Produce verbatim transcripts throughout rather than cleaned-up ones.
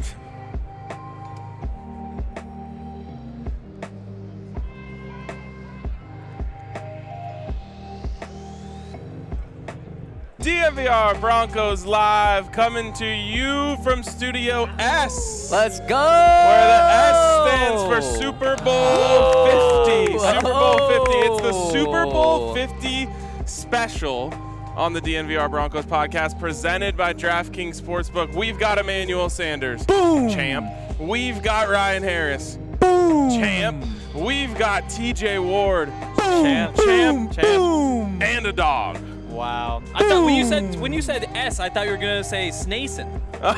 D N V R Broncos Live coming to you from Studio S. Let's go! Where the S stands for Super Bowl fifty. Whoa. Super Bowl fifty. It's the Super Bowl fifty special on the D N V R Broncos podcast presented by DraftKings Sportsbook. We've got Emmanuel Sanders. Boom! Champ. We've got Ryan Harris. Boom! Champ. We've got T J Ward. Boom! Champ. Boom! Champ. Champ. Boom! And a dog. Wow. I thought when you said when you said S, I thought you were gonna say Snason. Oh,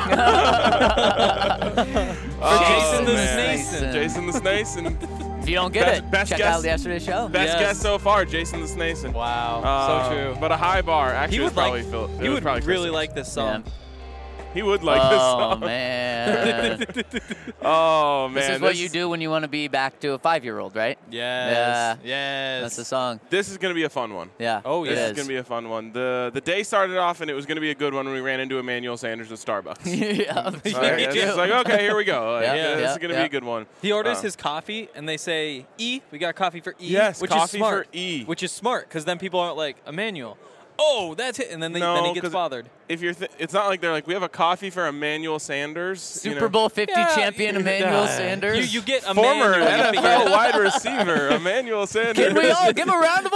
Jason the man. Snason. Jason the Snason. If you don't get Best- it, best check guess. out yesterday's show. Best Yes. guess so far, Jason the Snason. Wow. Uh, so true. But a high bar. Actually, He it was would probably like. Phil. it He was would probably really Chris. like this song. He would like this Oh, song. man. Oh, man. This is what you do when you want to be back to a five-year-old, right? Yes. Yes. That's the song. This is going to be a fun one. Yeah. Oh, it This yeah. is going to be a fun one. The the day started off, and it was going to be a good one when we ran into Emmanuel Sanders at Starbucks. yeah. All right, it's just like, okay, here we go. Like, Yeah, yeah, this yeah, is going to yeah. be a good one. He orders Uh, his coffee, and they say, E, we got coffee for E. Yes, which coffee is smart, for E. Which is smart, because then people aren't like, Emmanuel, oh, that's it. And then, they, No, then he gets 'cause bothered. If you're, th- it's not like they're like, we have a coffee for Emmanuel Sanders. you Super know. Bowl fifty Yeah, champion yeah. Emmanuel Sanders. You, you get Former Emmanuel, you N F figure L it- wide receiver Emmanuel Sanders. Can we all give him a round of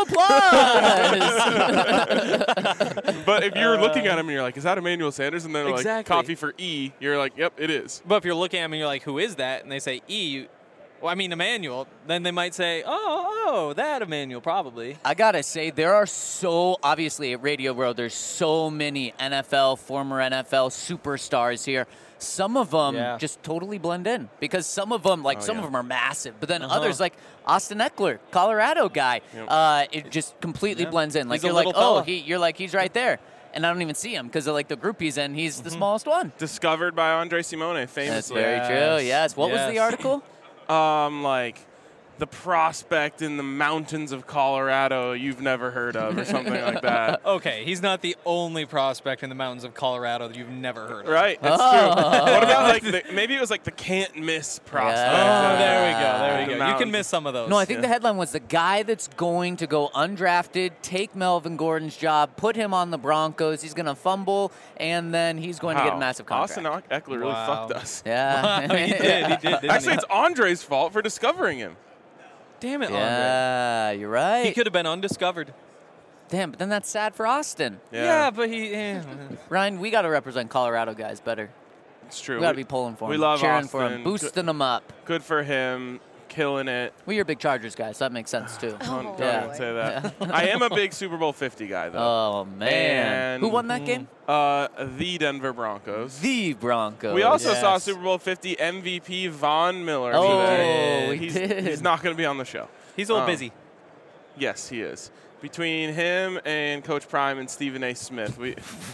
applause? But if you're looking at him and you're like, is that Emmanuel Sanders? And they're like, Exactly. coffee for E. You're like, yep, it is. But if you're looking at him and you're like, who is that? And they say E, you, well, I mean Emmanuel, then they might say, oh, oh, that Emmanuel, probably. I gotta say, there are so, obviously at Radio World, there's so many N F L, former N F L superstars here. Some of them Yeah. just totally blend in because some of them, like Oh, some yeah. of them are massive, but then Uh-huh. others, like Austin Eckler, Colorado guy, Yep. uh, it just completely Yeah. blends in. Like He's a you're like, little oh, fella. he, you're like he's right there, and I don't even see him because of like the group he's in. He's Mm-hmm. the smallest one. Discovered by Andre Simone, That's famously. very Yes. true. Yes. What was the Yes. article? Um, like the prospect in the mountains of Colorado you've never heard of, or something like that. Okay, he's not the only prospect in the mountains of Colorado that you've never heard of. Right, that's Oh. true. What about like the, maybe it was like the can't miss prospect? Yeah. Oh, there we go. There The we go. You mountains. can miss some of those. No, I think Yeah. the headline was the guy that's going to go undrafted, take Melvin Gordon's job, put him on the Broncos. He's going to fumble, and then he's going to get a Wow. massive contract. Austin Eckler really Wow. fucked us. Yeah. he did. He did. Didn't Actually, he? it's Andre's fault for discovering him. Damn it, Andre. yeah, you're right. He could have been undiscovered. Damn, but then that's sad for Austin. Yeah, but he. eh. Ryan, we got to represent Colorado guys better. it's true. We got to be pulling for him, we love cheering for Austin. him, boosting him up. Good for him, killing it. Well, you're big Chargers guys, so that makes sense too. Don't, don't Yeah. even say that. I am a big Super Bowl fifty guy, though. Oh man, And- who won that game? Uh, the Denver Broncos. The Broncos. We also saw Yes. Super Bowl fifty M V P Von Miller Oh, today. we he's, did. he's not going to be on the show. He's a little Um, busy. Yes, he is. Between him and Coach Prime and Stephen A. Smith, we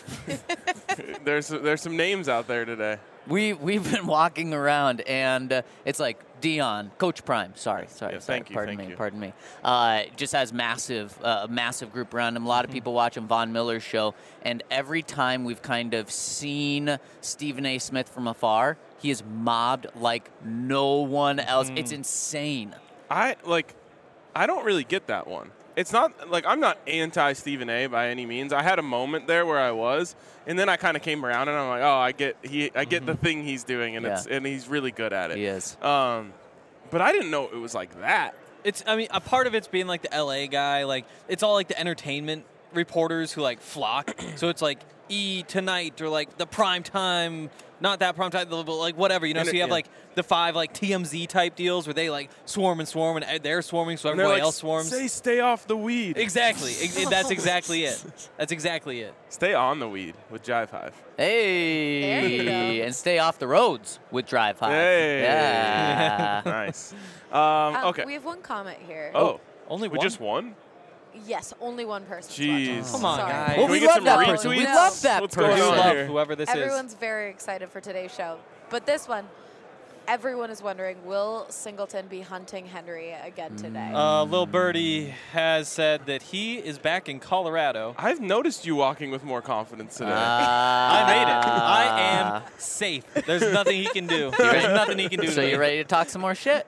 there's there's some names out there today. We we've been walking around, and uh, it's like Dion, Coach Prime. Sorry, sorry, Yeah, sorry. thank you, pardon thank me, you. pardon me. Uh, just has massive, uh, a massive group around him. A lot of people watching Von Miller's show, and every time we've kind of seen Stephen A. Smith from afar, he is mobbed like no one else. It's insane. I like. I don't really get that one. It's not like I'm not anti Stephen A. by any means. I had a moment there where I was, and then I kind of came around, and I'm like, oh, I get he, I get the thing he's doing, and it's Yeah. and he's really good at it. He is. Um, but I didn't know it was like that. It's. I mean, a part of it's being like the L A guy. Like it's all like the entertainment reporters who like flock. So it's like E tonight or like the prime time. Not that prime time, but like whatever, you know. And So it- you have yeah. like the five like T M Z type deals where they like swarm and swarm and they're swarming, so And they're everybody like, else swarms. Say stay off the weed. Exactly. Ex- That's exactly it. That's exactly it. Stay on the weed with Jive Hive. Hey, There you go. and stay off the roads with Drive High. Hey. Yeah. Nice. Um, Um, okay. We have one comment here. Oh, Only we one. just won? Yes, only one person. Jeez. Come on, Sorry. guys. Well, Can we, we get love some that retweets? person. We No. love that What's going person. on love here? whoever this Everyone's very excited for today's show. But this one, everyone is wondering, will Singleton be hunting Henry again today? Uh, Lil Birdie has said that he is back in Colorado. I've noticed you walking with more confidence today. I made it. I am safe. There's nothing he can do. There's nothing he can do. So to you me. ready to talk some more shit?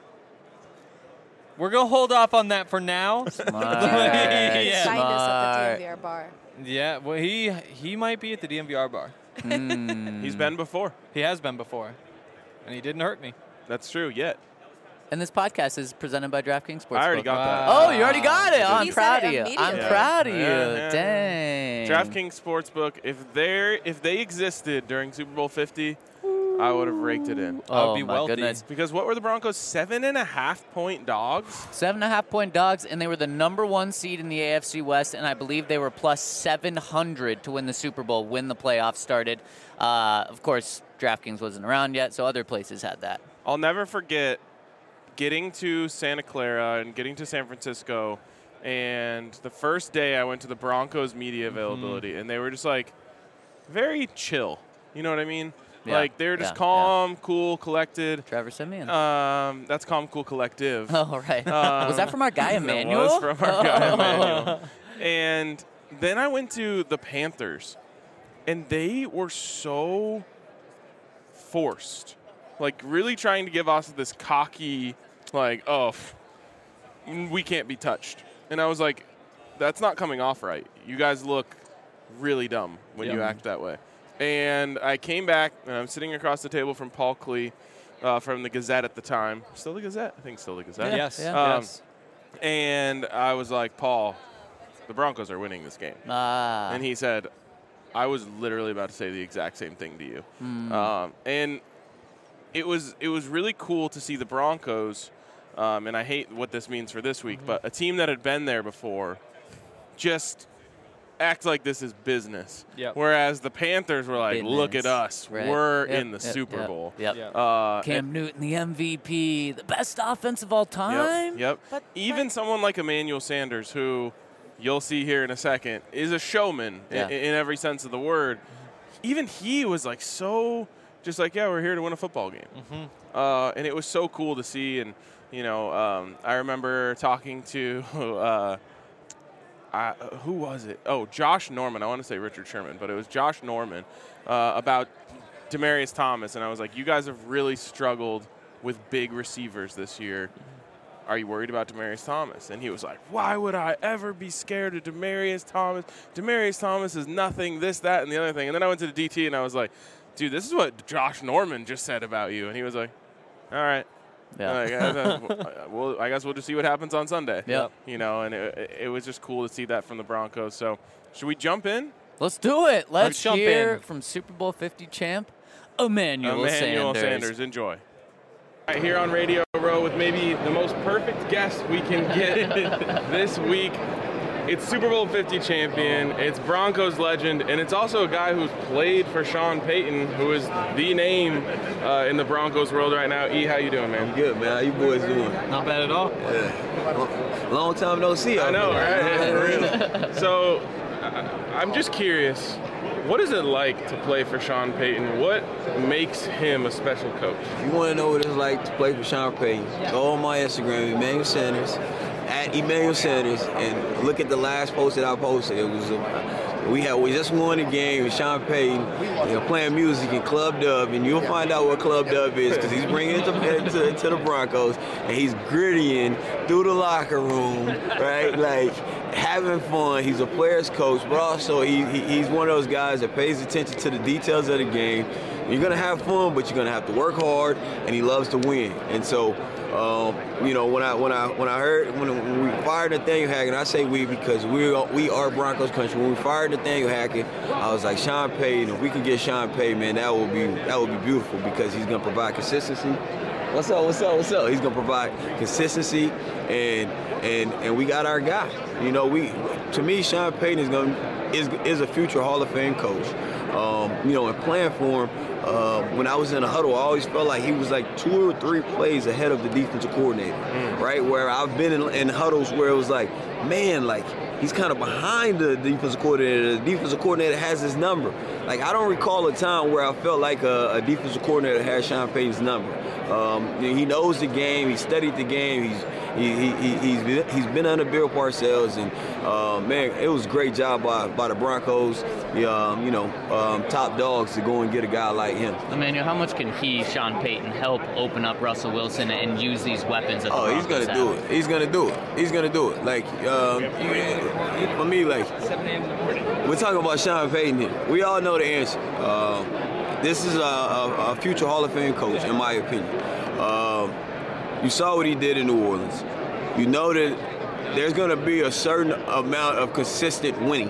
We're gonna hold off on that for now. Smart. Yeah. Find us at the Smart. D M V R bar. Yeah, well, he he might be at the D M V R bar. Mm. He's been before. He has been before, and he didn't hurt me. That's true. Yet. And this podcast is presented by DraftKings Sportsbook. I already got that. Oh, you already got it. Oh, I'm He said proud it of you. I'm immediately. proud of you. Yeah, yeah, Dang. DraftKings Sportsbook. If they if they existed during Super Bowl fifty, I would have raked it in. I would Oh, be my wealthy. goodness. Because what were the Broncos? Seven and a half point dogs. Seven and a half point dogs, and they were the number one seed in the A F C West, and I believe they were plus seven hundred to win the Super Bowl when the playoffs started. Uh, of course, DraftKings wasn't around yet, so other places had that. I'll never forget getting to Santa Clara and getting to San Francisco, and the first day I went to the Broncos media availability, Mm-hmm. and they were just like very chill. You know what I mean? Yeah, Like they were just yeah, calm, cool, collected. Trevor Simeon. Um, that's calm, cool, collective. oh, right. um, was that from our guy That Emmanuel? was from our guy Emmanuel. And then I went to the Panthers, and they were so forced, like really trying to give us this cocky, like, oh, f- we can't be touched. And I was like, that's not coming off right. You guys look really dumb when you Yeah. act that way. And I came back, and I'm sitting across the table from Paul Klee uh, from the Gazette at the time. Still the Gazette? I think still the Gazette. Yeah, Yes. yeah. Um, yes. And I was like, Paul, the Broncos are winning this game. Ah. And he said, I was literally about to say the exact same thing to you. Mm. Um, and it was it was really cool to see the Broncos, um, and I hate what this means for this week, but a team that had been there before just act like this is business. Yep. Whereas the Panthers were like, look at Business. us. Right. We're Yep, in the yep, Super yep, Bowl. Yep. Yeah. Uh, Cam Newton, the M V P, the best offense of all time. Yep. Yep. But- Even but- someone like Emmanuel Sanders, who you'll see here in a second, is a showman Yeah. in, in every sense of the word. Even he was like so, just like, yeah, we're here to win a football game. Mm-hmm. Uh, and it was so cool to see. And, you know, um, I remember talking to, uh, I, who was it? Oh, Josh Norman. I want to say Richard Sherman, but it was Josh Norman uh, about Demaryius Thomas. And I was like, you guys have really struggled with big receivers this year. Are you worried about Demaryius Thomas? And he was like, why would I ever be scared of Demaryius Thomas? Demaryius Thomas is nothing, this, that, and the other thing. And then I went to the D T and I was like, dude, this is what Josh Norman just said about you. And he was like, all right. Yeah. Like, uh, well, I guess we'll just see what happens on Sunday. Yep. You know, and it, it was just cool to see that from the Broncos. So should we jump in? Let's do it. Let's, Let's jump hear in. from Super Bowl fifty champ Emmanuel, Emmanuel Sanders. Sanders. Enjoy. Right here on Radio Row with maybe the most perfect guest we can get this week. It's Super Bowl fifty champion, it's Broncos legend, and it's also a guy who's played for Sean Payton, who is the name uh, in the Broncos world right now. E, how you doing, man? Good, man. How you boys doing? Not bad at all. Yeah. Long time no see. I out know, there. right? For real. So, I- I'm just curious, what is it like to play for Sean Payton? What makes him a special coach? If you want to know what it's like to play for Sean Payton, go on my Instagram, Emmanuel Sanders, at Emmanuel Sanders, and look at the last post that I posted. It was a, we had we just won the game with Sean Payton, you know, playing music in Club Dub, and you'll find out what Club Dub is because he's bringing it to, to, to the Broncos, and he's grittying through the locker room, right? Like having fun. He's a player's coach, but also he, he he's one of those guys that pays attention to the details of the game. You're gonna have fun, but you're gonna have to work hard, and he loves to win. And so, um, you know, when I when I when I heard when, when we fired Nathaniel Hackett, I say we because we are, we are Broncos country. When we fired Nathaniel Hackett, I was like, Sean Payton. If we can get Sean Payton, man, that would be that would be beautiful because he's gonna provide consistency. What's up? What's up? What's up? He's gonna provide consistency, and and and we got our guy. You know, we to me, Sean Payton is gonna is is a future Hall of Fame coach. Um, you know, and playing for him. Uh, when I was in a huddle, I always felt like he was like two or three plays ahead of the defensive coordinator, mm. right? Where I've been in, in huddles where it was like, man, like he's kind of behind the defensive coordinator. The defensive coordinator has his number. like I don't recall a time where I felt like a, a defensive coordinator had Sean Payton's number. Um, he knows the game. He studied the game. He's he, he, he, he's been, he's been under Bill Parcells, and uh, man, it was a great job by, by the Broncos. The, um, you know, um, top dogs to go and get a guy like him. Emmanuel, how much can he, Sean Payton, help open up Russell Wilson and use these weapons? That the oh, he's gonna have? do it. He's gonna do it. He's gonna do it. Like um, you, for me, like we're talking about Sean Payton here. We all know the answer. Uh, this is a, a, a future Hall of Fame coach, in my opinion. Um, you saw what he did in New Orleans. You know that there's going to be a certain amount of consistent winning.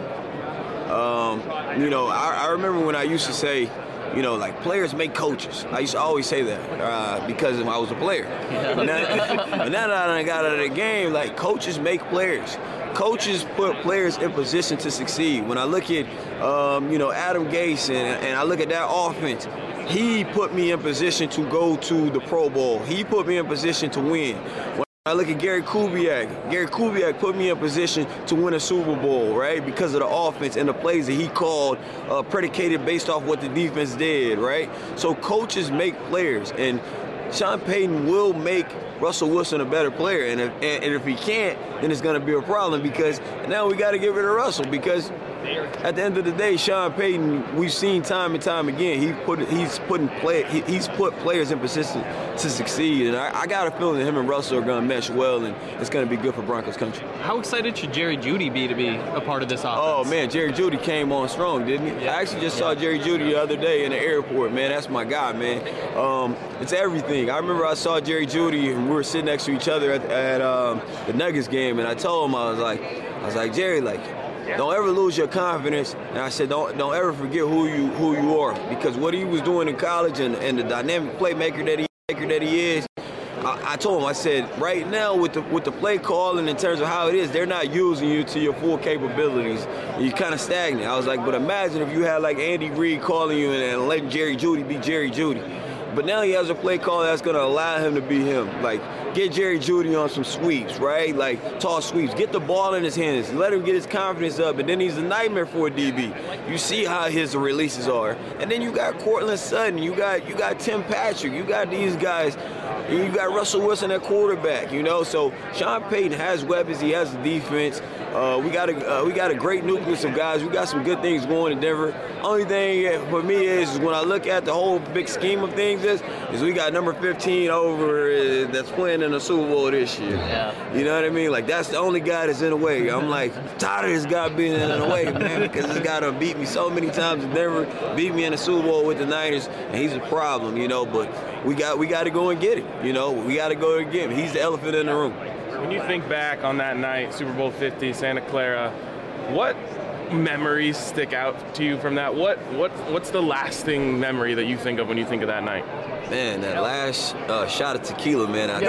Um, you know, I, I remember when I used to say, you know, like players make coaches. I used to always say that uh, because I was a player. But now, but now that I got out of the game, like coaches make players. Coaches put players in position to succeed. When I look at, um, you know, Adam Gase and, and I look at that offense, he put me in position to go to the Pro Bowl. He put me in position to win. When I look at Gary Kubiak, Gary Kubiak put me in position to win a Super Bowl, right? Because of the offense and the plays that he called, uh, predicated based off what the defense did, right? So coaches make players, and Sean Payton will make Russell Wilson a better player. And if, and, and if he can't, then it's going to be a problem, because now we got to get rid of Russell, because at the end of the day, Sean Payton, we've seen time and time again, he put he's putting play he, he's put players in position to succeed, and I, I got a feeling that him and Russell are going to mesh well, and it's going to be good for Broncos country. How excited should Jerry Jeudy be to be a part of this offense? Oh man, Jerry Jeudy came on strong, didn't he? Yeah. I actually just saw Jerry Jeudy the other day in the airport. Man, that's my guy, man. Um, it's everything. I remember I saw Jerry Jeudy, and we were sitting next to each other at, at um, the Nuggets game, and I told him, I was like, I was like, Jerry, like, don't ever lose your confidence. And I said, don't don't ever forget who you who you are, because what he was doing in college and, and the dynamic playmaker that he maker that he is. I, I told him, I said, right now with the with the play calling in terms of how it is, they're not using you to your full capabilities. You're kind of stagnant. I was like, but imagine if you had like Andy Reid calling you and, and letting Jerry Jeudy be Jerry Jeudy. But now he has a play call that's going to allow him to be him. Like, get Jerry Jeudy on some sweeps, right? Like, toss sweeps. Get the ball in his hands. Let him get his confidence up. And then he's a nightmare for a D B. You see how his releases are. And then you got Cortland Sutton. You got you got Tim Patrick. You got these guys. You got Russell Wilson at quarterback, you know? So Sean Payton has weapons. He has the defense. Uh, we got a uh, we got a great nucleus of guys. We got some good things going in Denver. Only thing for me is, is when I look at the whole big scheme of things is, is we got number fifteen over uh, that's playing in the Super Bowl this year. Yeah. You know what I mean? Like, that's the only guy that's in the way. I'm like, tired of this guy being in the way, man, because this guy done beat me so many times in Denver, beat me in the Super Bowl with the Niners, and he's a problem, you know. But we got we got to go and get him. You know, we got to go and get him. He's the elephant in the room. When you think back on that night, Super Bowl fifty, Santa Clara, what memories stick out to you from that? What what what's the lasting memory that you think of when you think of that night? Man, that last uh, shot of tequila, man. I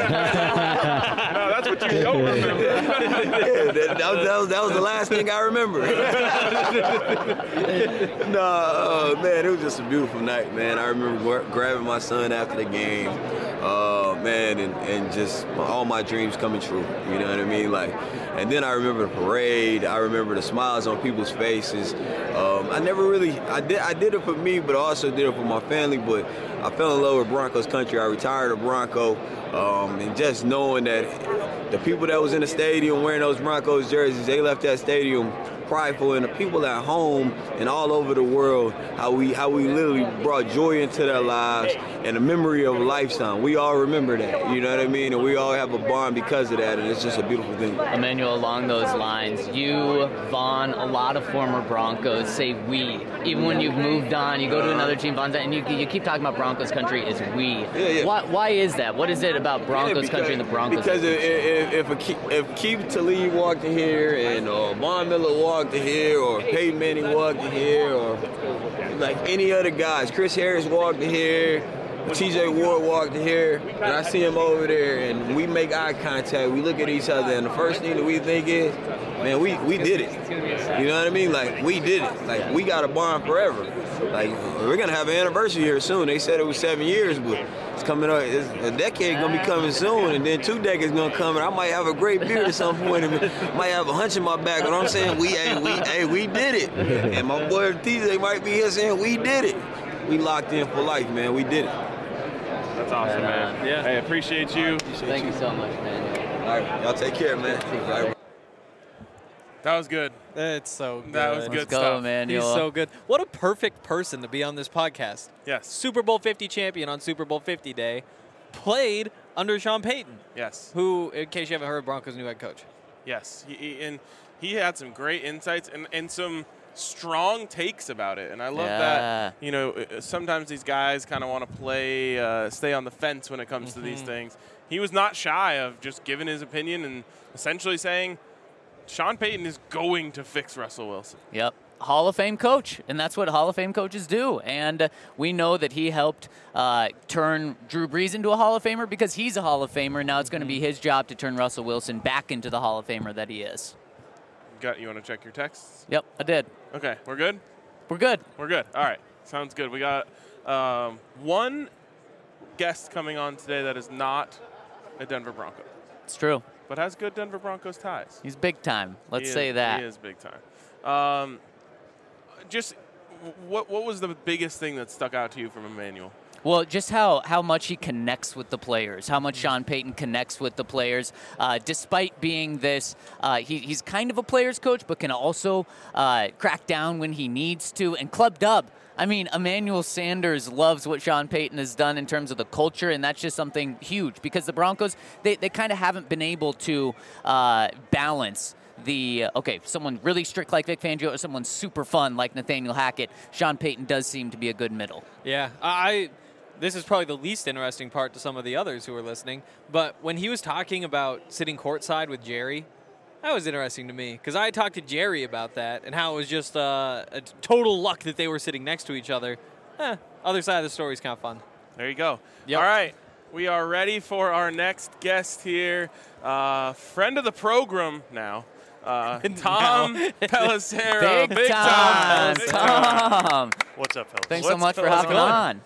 no, that's what you don't remember. yeah, that, that, was, that, was, that was the last thing I remember. no, uh, man, it was just a beautiful night, man. I remember grabbing my son after the game, uh, man, and, and just all my dreams coming true. You know what I mean? Like, and then I remember the parade. I remember the smiles on people's faces. Um, I never really, I did, I did it for me, but I also did it for my family. But I fell in love with Broncos country. I retired a Bronco, um, and just knowing that the people that was in the stadium wearing those Broncos jerseys, they left that stadium prideful, and the people at home and all over the world, how we how we literally brought joy into their lives and a memory of a lifetime. We all remember that, you know what I mean? And we all have a bond because of that, and it's just a beautiful thing. Emmanuel, along those lines, you, Vaughn, a lot of former Broncos say we. Even when you've moved on, you go to another team, Vaughn's, and you, you keep talking about Broncos country as we. Yeah, yeah. Why, why is that? What is it about Broncos yeah, because, country and the Broncos? Because if, if, if, a, if Keith Talib walked in here and uh, Von Miller walked in here, or Peyton Manning walked in here, or like any other guys, Chris Harris walked in here, T J Ward walked here, and I see him over there, and we make eye contact. We look at each other, and the first thing that we think is, man, we, we did it. You know what I mean? Like, we did it. Like, we got a bond forever. Like, we're going to have an anniversary here soon. They said it was seven years, but it's coming up. It's, a decade going to be coming soon, and then two decades going to come, and I might have a great beard at some point, and might have a hunch in my back, but I'm saying, we, hey, we, hey, we did it. And my boy T J might be here saying, we did it. We locked in for life, man. We did it. That's awesome, man. Yeah. Hey, appreciate you. Thank you so much, man. All right, y'all take care, man. All right. That was good. It's so good. That was good Let's go, stuff. man. He's so good. What a perfect person to be on this podcast. Yes. Super Bowl fifty champion on Super Bowl fifty day, played under Sean Payton, Yes. who, in case you haven't heard, Broncos' new head coach. Yes. He, he- and he had some great insights and, and some strong takes about it. And I love Yeah. that, you know, uh, sometimes these guys kind of want to play, uh, stay on the fence when it comes to these things. He was not shy of just giving his opinion and essentially saying, Sean Payton is going to fix Russell Wilson. Yep. Hall of Fame coach, and that's what Hall of Fame coaches do. And uh, we know that he helped uh, turn Drew Brees into a Hall of Famer because he's a Hall of Famer. Now it's going to be his job to turn Russell Wilson back into the Hall of Famer that he is. Got you want to check your texts? Yep, I did. Okay, we're good? We're good. We're good. All right. Sounds good. We got um, one guest coming on today that is not a Denver Bronco, It's true. but has good Denver Broncos ties. He's big time. Let's He is- say that. He is big time. Um, just what what was the biggest thing that stuck out to you from Emmanuel? Well, just how, how much he connects with the players, how much Sean Payton connects with the players, uh, despite being this, uh, he, he's kind of a player's coach, but can also uh, crack down when he needs to. And Club Dub, I mean, Emmanuel Sanders loves what Sean Payton has done in terms of the culture, and that's just something huge because the Broncos, they, they kind of haven't been able to uh, balance the, uh, okay, someone really strict like Vic Fangio or someone super fun like Nathaniel Hackett. Sean Payton does seem to be a good middle. Yeah, I. This is probably the least interesting part to some of the others who are listening. But when he was talking about sitting courtside with Jerry, that was interesting to me because I talked to Jerry about that and how it was just uh, a total luck that they were sitting next to each other. Eh, other side of the story is kind of fun. There you go. Yep. All right. We are ready for our next guest here. Uh, friend of the program now. Uh, Tom Pelissero. Big, time, Big Tom. What's up, fellas? Thanks so What's- much for what's hopping going? on.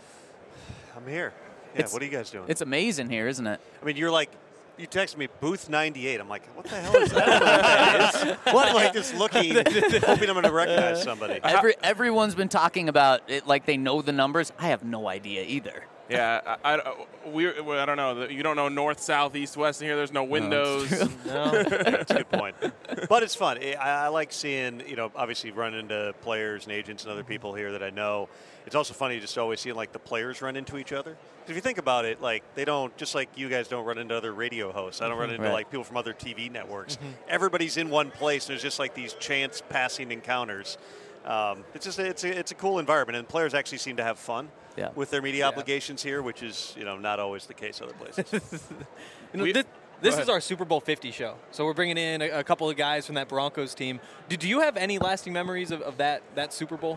I'm here. Yeah, It's- what are you guys doing? It's amazing here, isn't it? I mean, you're like, you texted me booth ninety-eight. I'm like, what the hell is that? I don't know what that is. What? I'm like just looking, hoping I'm going to recognize somebody. Every everyone's been talking about it like they know the numbers. I have no idea either. Yeah, I, I, we, I don't know. You don't know north, south, east, west in here. There's no windows. No. That's a good point. But it's fun. I, I like seeing, you know, obviously run into players and agents and other people here that I know. It's also funny just always seeing, like, the players run into each other. 'Cause if you think about it, like, they don't, just like you guys don't run into other radio hosts. I don't run into, Right. like, people from other T V networks. Everybody's in one place. And there's just, like, these chance passing encounters. Um, it's just, it's a, it's a cool environment. And players actually seem to have fun Yeah. with their media obligations here, which is, you know, not always the case other places. You know, We- this this Go is ahead. our Super Bowl fifty show. So we're bringing in a, a couple of guys from that Broncos team. Do, do you have any lasting memories of, of that, that Super Bowl?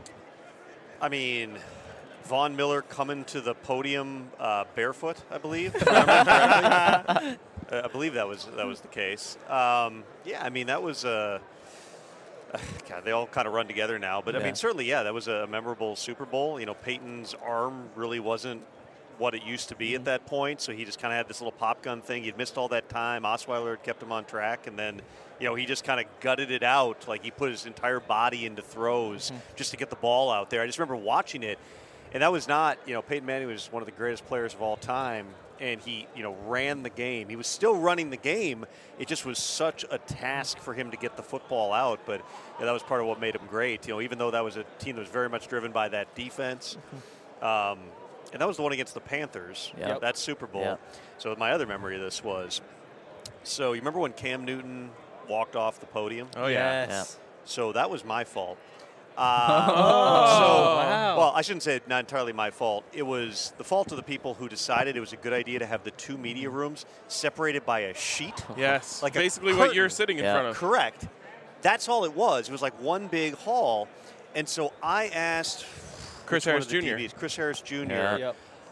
I mean, Von Miller coming to the podium uh, barefoot, I believe. If I remember correctly. Uh, I believe that was that was the case. Um, yeah, I mean that was a. Uh, God, they all kind of run together now, but I Yeah. mean certainly, yeah, that was a memorable Super Bowl. You know, Peyton's arm really wasn't what it used to be at that point, so he just kind of had this little pop gun thing. He'd missed all that time. Osweiler had kept him on track, and then, you know, he just kind of gutted it out. Like he put his entire body into throws just to get the ball out there. I just remember watching it, and that was not, you know, Peyton Manning was one of the greatest players of all time, and he, you know, ran the game. He was still running the game. It just was such a task for him to get the football out, but yeah, that was part of what made him great. You know, even though that was a team that was very much driven by that defense. Um, and that was the one against the Panthers, Yep. that Super Bowl. Yep. So my other memory of this was, so you remember when Cam Newton walked off the podium? Oh, yeah. Yes. So that was my fault. Uh, so, wow. well, I shouldn't say not entirely my fault. It was the fault of the people who decided it was a good idea to have the two media rooms separated by a sheet. Yes. Like a Basically what curtain. you're sitting in Yeah. front of. Correct. That's all it was. It was like one big hall. And so I asked Chris which one Harris of the Junior T Vs, Chris Harris Junior Yeah. Yep.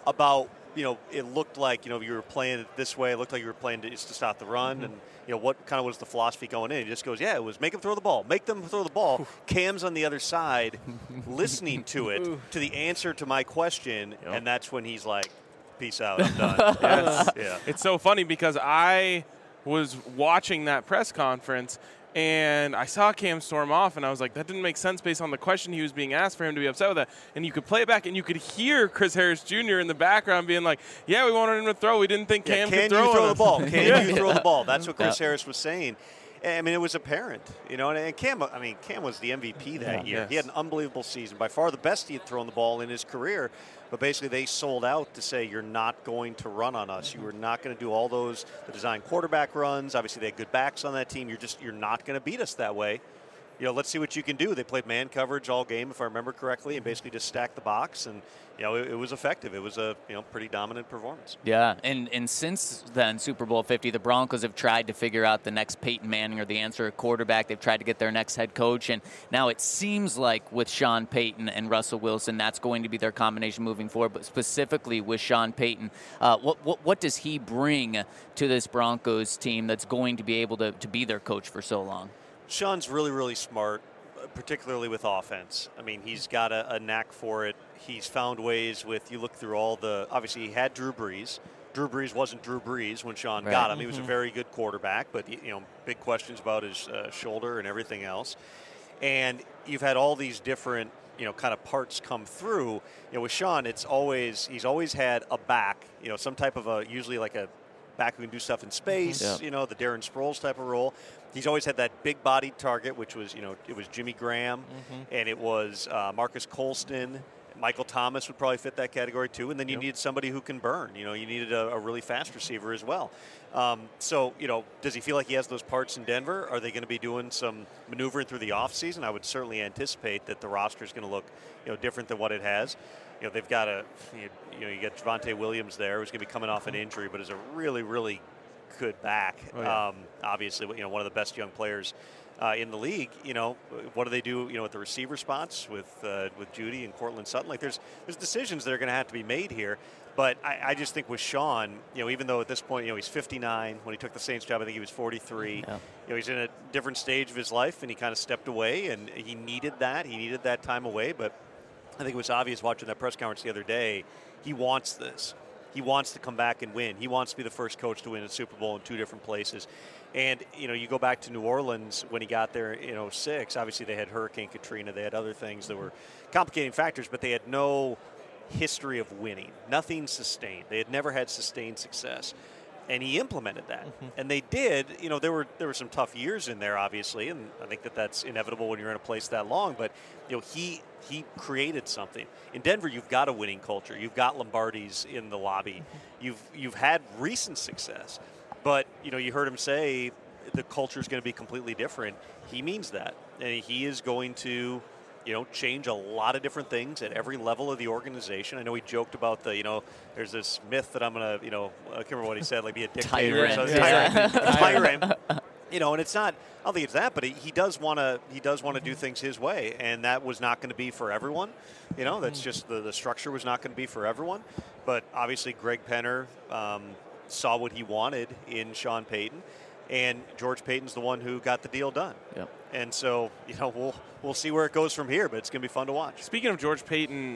about, you know, it looked like, you know, you were playing it this way. It looked like you were playing to, just to stop the run. Mm-hmm. And, you know, what kind of was the philosophy going in? He just goes, yeah, it was make them throw the ball. Make them throw the ball. Cam's on the other side listening to it, to the answer to my question. Yep. And that's when he's like, peace out, I'm done. Yes. Yeah. It's so funny because I was watching that press conference and I saw Cam storm off, and I was like, that didn't make sense based on the question he was being asked for him to be upset with that. And you could play it back, and you could hear Chris Harris Junior in the background being like, yeah, we wanted him to throw. We didn't think yeah, Cam can could throw you throw us. the ball? Can yeah. you throw the ball? That's what Chris yeah. Harris was saying. I mean, it was apparent, you know, and Cam, I mean, Cam was the M V P that yeah, year. Yes. He had an unbelievable season, by far the best he had thrown the ball in his career. But basically, they sold out to say, you're not going to run on us. You are not going to do all those, the design quarterback runs. Obviously, they had good backs on that team. You're just, you're not going to beat us that way. You know, let's see what you can do. They played man coverage all game, if I remember correctly, and basically just stacked the box. And, you know, it, it was effective. It was a, you know, pretty dominant performance. Yeah, and, and since then, Super Bowl fifty, the Broncos have tried to figure out the next Peyton Manning or the answer at quarterback. They've tried to get their next head coach. And now it seems like with Sean Payton and Russell Wilson, that's going to be their combination moving forward. But specifically with Sean Payton, uh, what, what what does he bring to this Broncos team that's going to be able to, to be their coach for so long? Sean's really, really smart, particularly with offense. I mean, he's got a, a knack for it. He's found ways with, you look through all the, obviously he had Drew Brees. Drew Brees wasn't Drew Brees when Sean right. got him. Mm-hmm. He was a very good quarterback, but, you know, big questions about his uh, shoulder and everything else. And you've had all these different, you know, kind of parts come through. You know, with Sean, it's always, he's always had a back, you know, some type of a, usually like a back who can do stuff in space, yeah. you know, the Darren Sproles type of role. He's always had that big-bodied target, which was, you know, it was Jimmy Graham, mm-hmm. and it was uh, Marcus Colston. Michael Thomas would probably fit that category too. And then you yep. needed somebody who can burn. You know, you needed a, a really fast receiver as well. Um, so, you know, does he feel like he has those parts in Denver? Are they going to be doing some maneuvering through the offseason? I would certainly anticipate that the roster is going to look, you know, different than what it has. You know, they've got a, you know, you got Javonte Williams there, who's going to be coming off an injury, but is a really, really good back. Oh, yeah. um, obviously, you know, one of the best young players uh, in the league. You know, what do they do? You know, with the receiver spots with uh, with Judy and Cortland Sutton. Like, there's there's decisions that are going to have to be made here. But I, I just think with Sean, you know, even though at this point, you know, he's fifty-nine. When he took the Saints job, I think he was forty-three. Yeah. You know, he's in a different stage of his life, and he kind of stepped away, and he needed that. He needed that time away. But I think it was obvious watching that press conference the other day. He wants this. He wants to come back and win. He wants to be the first coach to win a Super Bowl in two different places. And, you know, you go back to New Orleans when he got there in oh six. Obviously, they had Hurricane Katrina. They had other things that were complicating factors, but they had no history of winning. Nothing sustained. They had never had sustained success. And he implemented that. Mm-hmm. And they did. You know, there were there were some tough years in there, obviously, and I think that that's inevitable when you're in a place that long. But, you know, he he created something. In Denver, you've got a winning culture. You've got Lombardi's in the lobby. Mm-hmm. You've you've had recent success. But, you know, you heard him say the culture is going to be completely different. He means that. And he is going to, you know, change a lot of different things at every level of the organization. I know he joked about the, you know, there's this myth that I'm going to, you know, I can't remember what he said, like be a dictator. Tyrant. Or something. Yeah. Tyrant. Tyrant. You know, and it's not, I don't think it's that, but he, he does want to, he does want to do things his way. And that was not going to be for everyone. You know, that's just the, the structure was not going to be for everyone. But obviously Greg Penner um, saw what he wanted in Sean Payton. And George Payton's the one who got the deal done. Yep. And so, you know, we'll we'll see where it goes from here, but it's going to be fun to watch. Speaking of George Payton,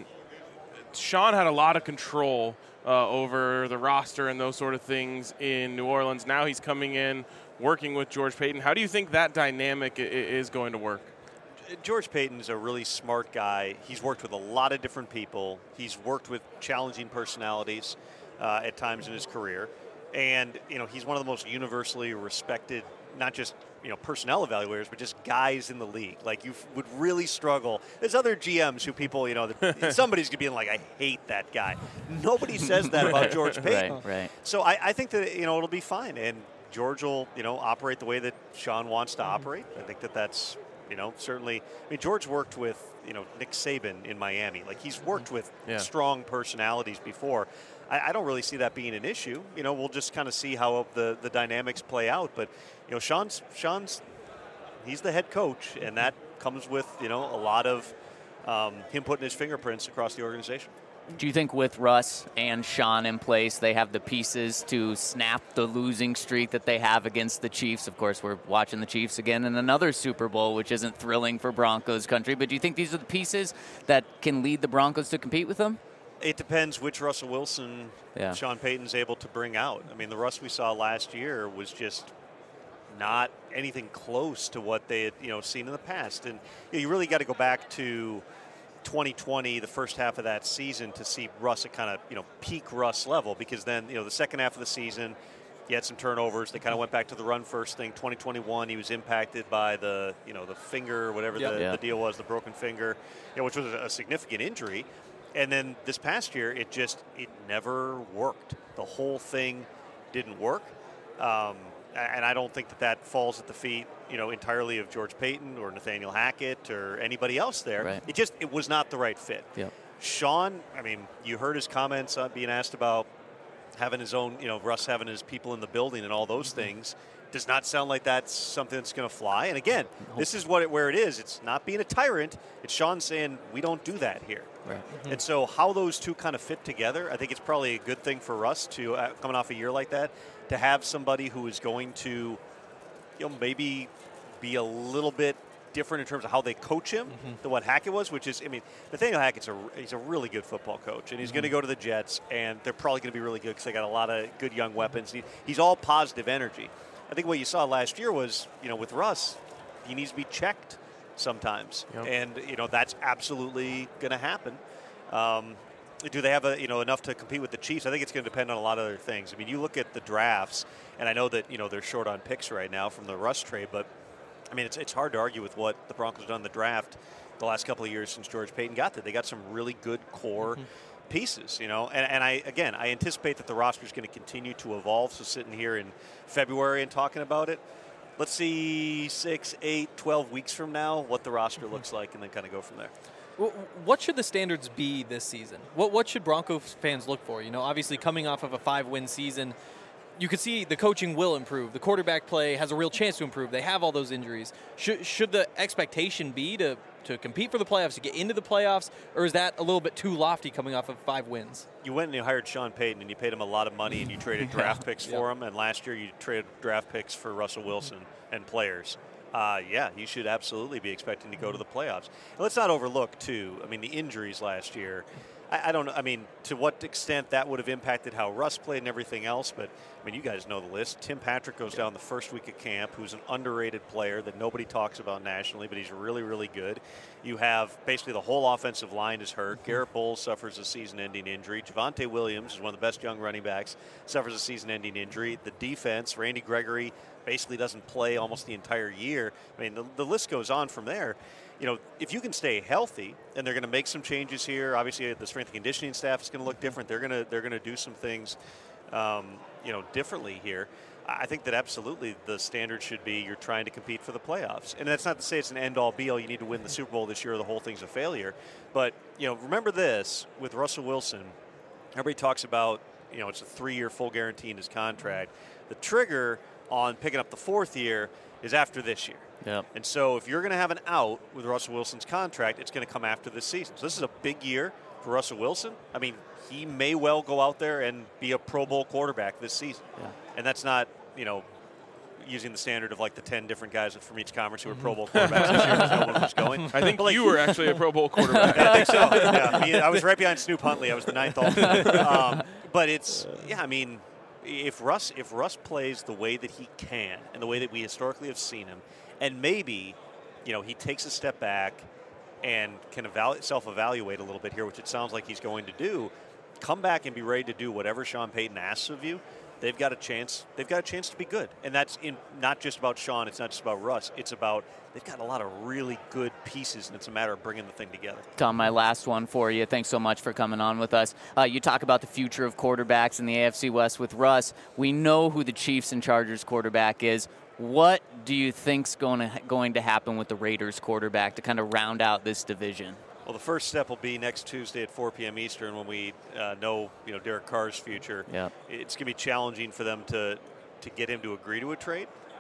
Sean had a lot of control uh, over the roster and those sort of things in New Orleans. Now he's coming in, working with George Payton. How do you think that dynamic I- is going to work? George Payton's a really smart guy. He's worked with a lot of different people. He's worked with challenging personalities uh, at times in his career. And, you know, he's one of the most universally respected, not just, you know, personnel evaluators, but just guys in the league. Like, you f- would really struggle. There's other G Ms who people, you know, that somebody's going to be like, I hate that guy. Nobody says that about George Payton. Right, right. So I, I think that, you know, it'll be fine. And George will, you know, operate the way that Sean wants to operate. I think that that's, you know, certainly. I mean, George worked with, you know, Nick Saban in Miami. Like, he's worked with yeah. strong personalities before. I, I don't really see that being an issue. You know, we'll just kind of see how the, the dynamics play out. But, you know, Sean's, Sean's, he's the head coach, and that comes with, you know, a lot of um, him putting his fingerprints across the organization. Do you think with Russ and Sean in place, they have the pieces to snap the losing streak that they have against the Chiefs? Of course, we're watching the Chiefs again in another Super Bowl, which isn't thrilling for Broncos country. But do you think these are the pieces that can lead the Broncos to compete with them? It depends which Russell Wilson yeah. Sean Payton's able to bring out. I mean, the Russ we saw last year was just not anything close to what they had, you know, seen in the past. And you know, you really got to go back to twenty twenty, the first half of that season, to see Russ at kind of, you know, peak Russ level, because then, you know, the second half of the season, he had some turnovers. They kind of went back to the run first thing. twenty twenty-one, he was impacted by the, you know, the finger, whatever yep. the, yeah. the deal was, the broken finger, you know, which was a significant injury. And then this past year, it just, it never worked. The whole thing didn't work. Um, and I don't think that that falls at the feet, you know, entirely of George Paton or Nathaniel Hackett or anybody else there. Right. It just, it was not the right fit. Yep. Sean, I mean, you heard his comments on being asked about having his own, you know, Russ having his people in the building and all those things. Does not sound like that's something that's going to fly. And again, this is what it, where it is. It's not being a tyrant. It's Sean saying, we don't do that here. Right. Mm-hmm. And so how those two kind of fit together, I think it's probably a good thing for Russ to, uh, coming off a year like that, to have somebody who is going to, you know, maybe be a little bit different in terms of how they coach him mm-hmm. than what Hackett was, which is, I mean, Nathaniel Hackett's a, he's a really good football coach, and he's mm-hmm. going to go to the Jets, and they're probably going to be really good because they got a lot of good young weapons. He, he's all positive energy. I think what you saw last year was, you know, with Russ, he needs to be checked sometimes, yep. and you know that's absolutely going to happen. Um, do they have a, you know, enough to compete with the Chiefs? I think it's going to depend on a lot of other things. I mean, you look at the drafts, and I know that, you know, they're short on picks right now from the Russ trade, but I mean, it's it's hard to argue with what the Broncos have done in the draft the last couple of years since George Paton got there. They got some really good core mm-hmm. pieces, you know, and, and I, again, I anticipate that the roster is going to continue to evolve. So sitting here in February and talking about it, let's see six, eight, twelve weeks from now what the roster mm-hmm. looks like, and then kind of go from there. What should the standards be this season? What what should Broncos fans look for? You know, obviously coming off of a five-win season, you could see the coaching will improve. The quarterback play has a real chance to improve. They have all those injuries. Should should the expectation be to, to compete for the playoffs, to get into the playoffs, or is that a little bit too lofty coming off of five wins? You went and you hired Sean Payton, and you paid him a lot of money, and you traded draft picks for him, and last year you traded draft picks for Russell Wilson and players. Uh, yeah, you should absolutely be expecting to go to the playoffs. And let's not overlook, too, I mean, the injuries last year. I, I don't know, I mean, to what extent that would have impacted how Russ played and everything else, but, I mean, you guys know the list. Tim Patrick goes down the first week of camp, who's an underrated player that nobody talks about nationally, but he's really, really good. You have basically the whole offensive line is hurt. Garrett Bowles suffers a season-ending injury. Javonte Williams is one of the best young running backs, suffers a season-ending injury. The defense, Randy Gregory, basically doesn't play almost the entire year. I mean, the, the list goes on from there. You know, if you can stay healthy, and they're going to make some changes here. Obviously, the strength and conditioning staff is going to look different. They're going to they're going to do some things, um, you know, differently here. I think that absolutely the standard should be you're trying to compete for the playoffs, and that's not to say it's an end-all, be-all. You need to win the Super Bowl this year, or the whole thing's a failure. But you know, remember this with Russell Wilson. Everybody talks about, you know, it's a three-year full guarantee in his contract. The trigger on picking up the fourth year is after this year. Yep. And so if you're going to have an out with Russell Wilson's contract, it's going to come after this season. So this is a big year for Russell Wilson. I mean, he may well go out there and be a Pro Bowl quarterback this season. Yeah. And that's not, you know, using the standard of like the ten different guys from each conference who were Pro Bowl quarterbacks this year because no one was going. I think like, you were actually a Pro Bowl quarterback. I think so. Yeah, me, I was right behind Snoop Huntley. I was the ninth all-time. Um, but it's, yeah, I mean, if Russ if Russ plays the way that he can and the way that we historically have seen him, and maybe, you know, he takes a step back and can evalu- self-evaluate a little bit here, which it sounds like he's going to do, come back and be ready to do whatever Sean Payton asks of you, they've got a chance. They've got a chance to be good, and that's in not just about Sean. It's not just about Russ. It's about they've got a lot of really good pieces, and it's a matter of bringing the thing together. Tom, my last one for you. Thanks so much for coming on with us. Uh, you talk about the future of quarterbacks in the A F C West with Russ. We know who the Chiefs and Chargers quarterback is. What do you think's going to going to happen with the Raiders quarterback to kind of round out this division? Well, the first step will be next Tuesday at four p.m. Eastern when we uh, know, you know, Derek Carr's future. Yep. It's going to be challenging for them to to get him to agree to a trade.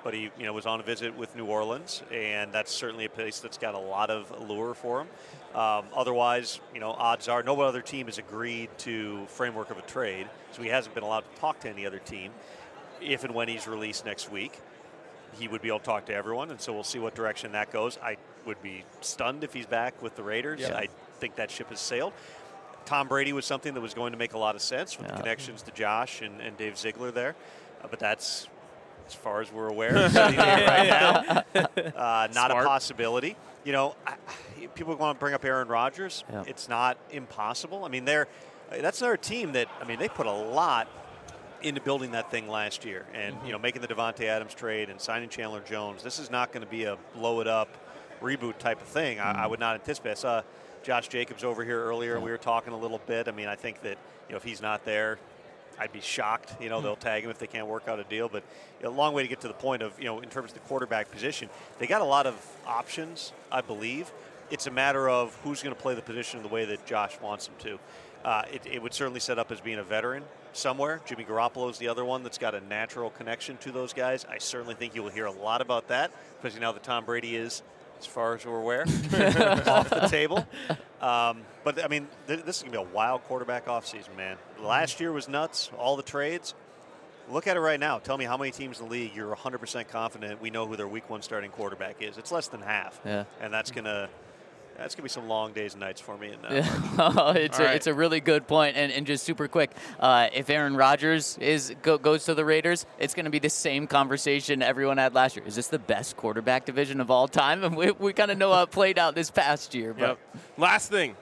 but he you know was on a visit with New Orleans, and that's certainly a place that's got a lot of allure for him. Um, otherwise, you know, odds are no other team has agreed to framework of a trade, so he hasn't been allowed to talk to any other team. If and when he's released next week, he would be able to talk to everyone, and so we'll see what direction that goes. I would be stunned if he's back with the Raiders. Yeah. I think that ship has sailed. Tom Brady was something that was going to make a lot of sense with Yeah. the connections to Josh and, and Dave Ziegler there, uh, but that's as far as we're aware sitting here right now. Uh, not Smart. a possibility. You know, I, people want to bring up Aaron Rodgers. Yeah. It's not impossible. I mean, they're that's another team that I mean they put a lot into building that thing last year, and Mm-hmm. you know making the Devontae Adams trade and signing Chandler Jones. This is not going to be a blow it up reboot type of thing. Mm-hmm. I, I would not anticipate. I saw Josh Jacobs over here earlier, and we were talking a little bit. I mean, I think that you know if he's not there, I'd be shocked. You know, they'll tag him if they can't work out a deal. But you know, a long way to get to the point of, you know, in terms of the quarterback position, they got a lot of options, I believe. It's a matter of who's going to play the position the way that Josh wants him to. Uh, it, it would certainly set up as being a veteran somewhere. Jimmy Garoppolo is the other one that's got a natural connection to those guys. I certainly think you will hear a lot about that, especially now that Tom Brady is, as far as we're aware, off the table. Um, but, I mean, th- this is going to be a wild quarterback offseason, man. Last year was nuts, all the trades. Look at it right now. Tell me how many teams in the league you're one hundred percent confident we know who their week one starting quarterback is. It's less than half. Yeah. And that's going to that's gonna be some long days and nights for me. In, uh, Yeah. it's, All a, right. it's a really good point. And, and just super quick, uh, if Aaron Rodgers is go, goes to the Raiders, it's going to be the same conversation everyone had last year. Is this the best quarterback division of all time? And we, we kind of know how it played out this past year. But Yep. Last thing.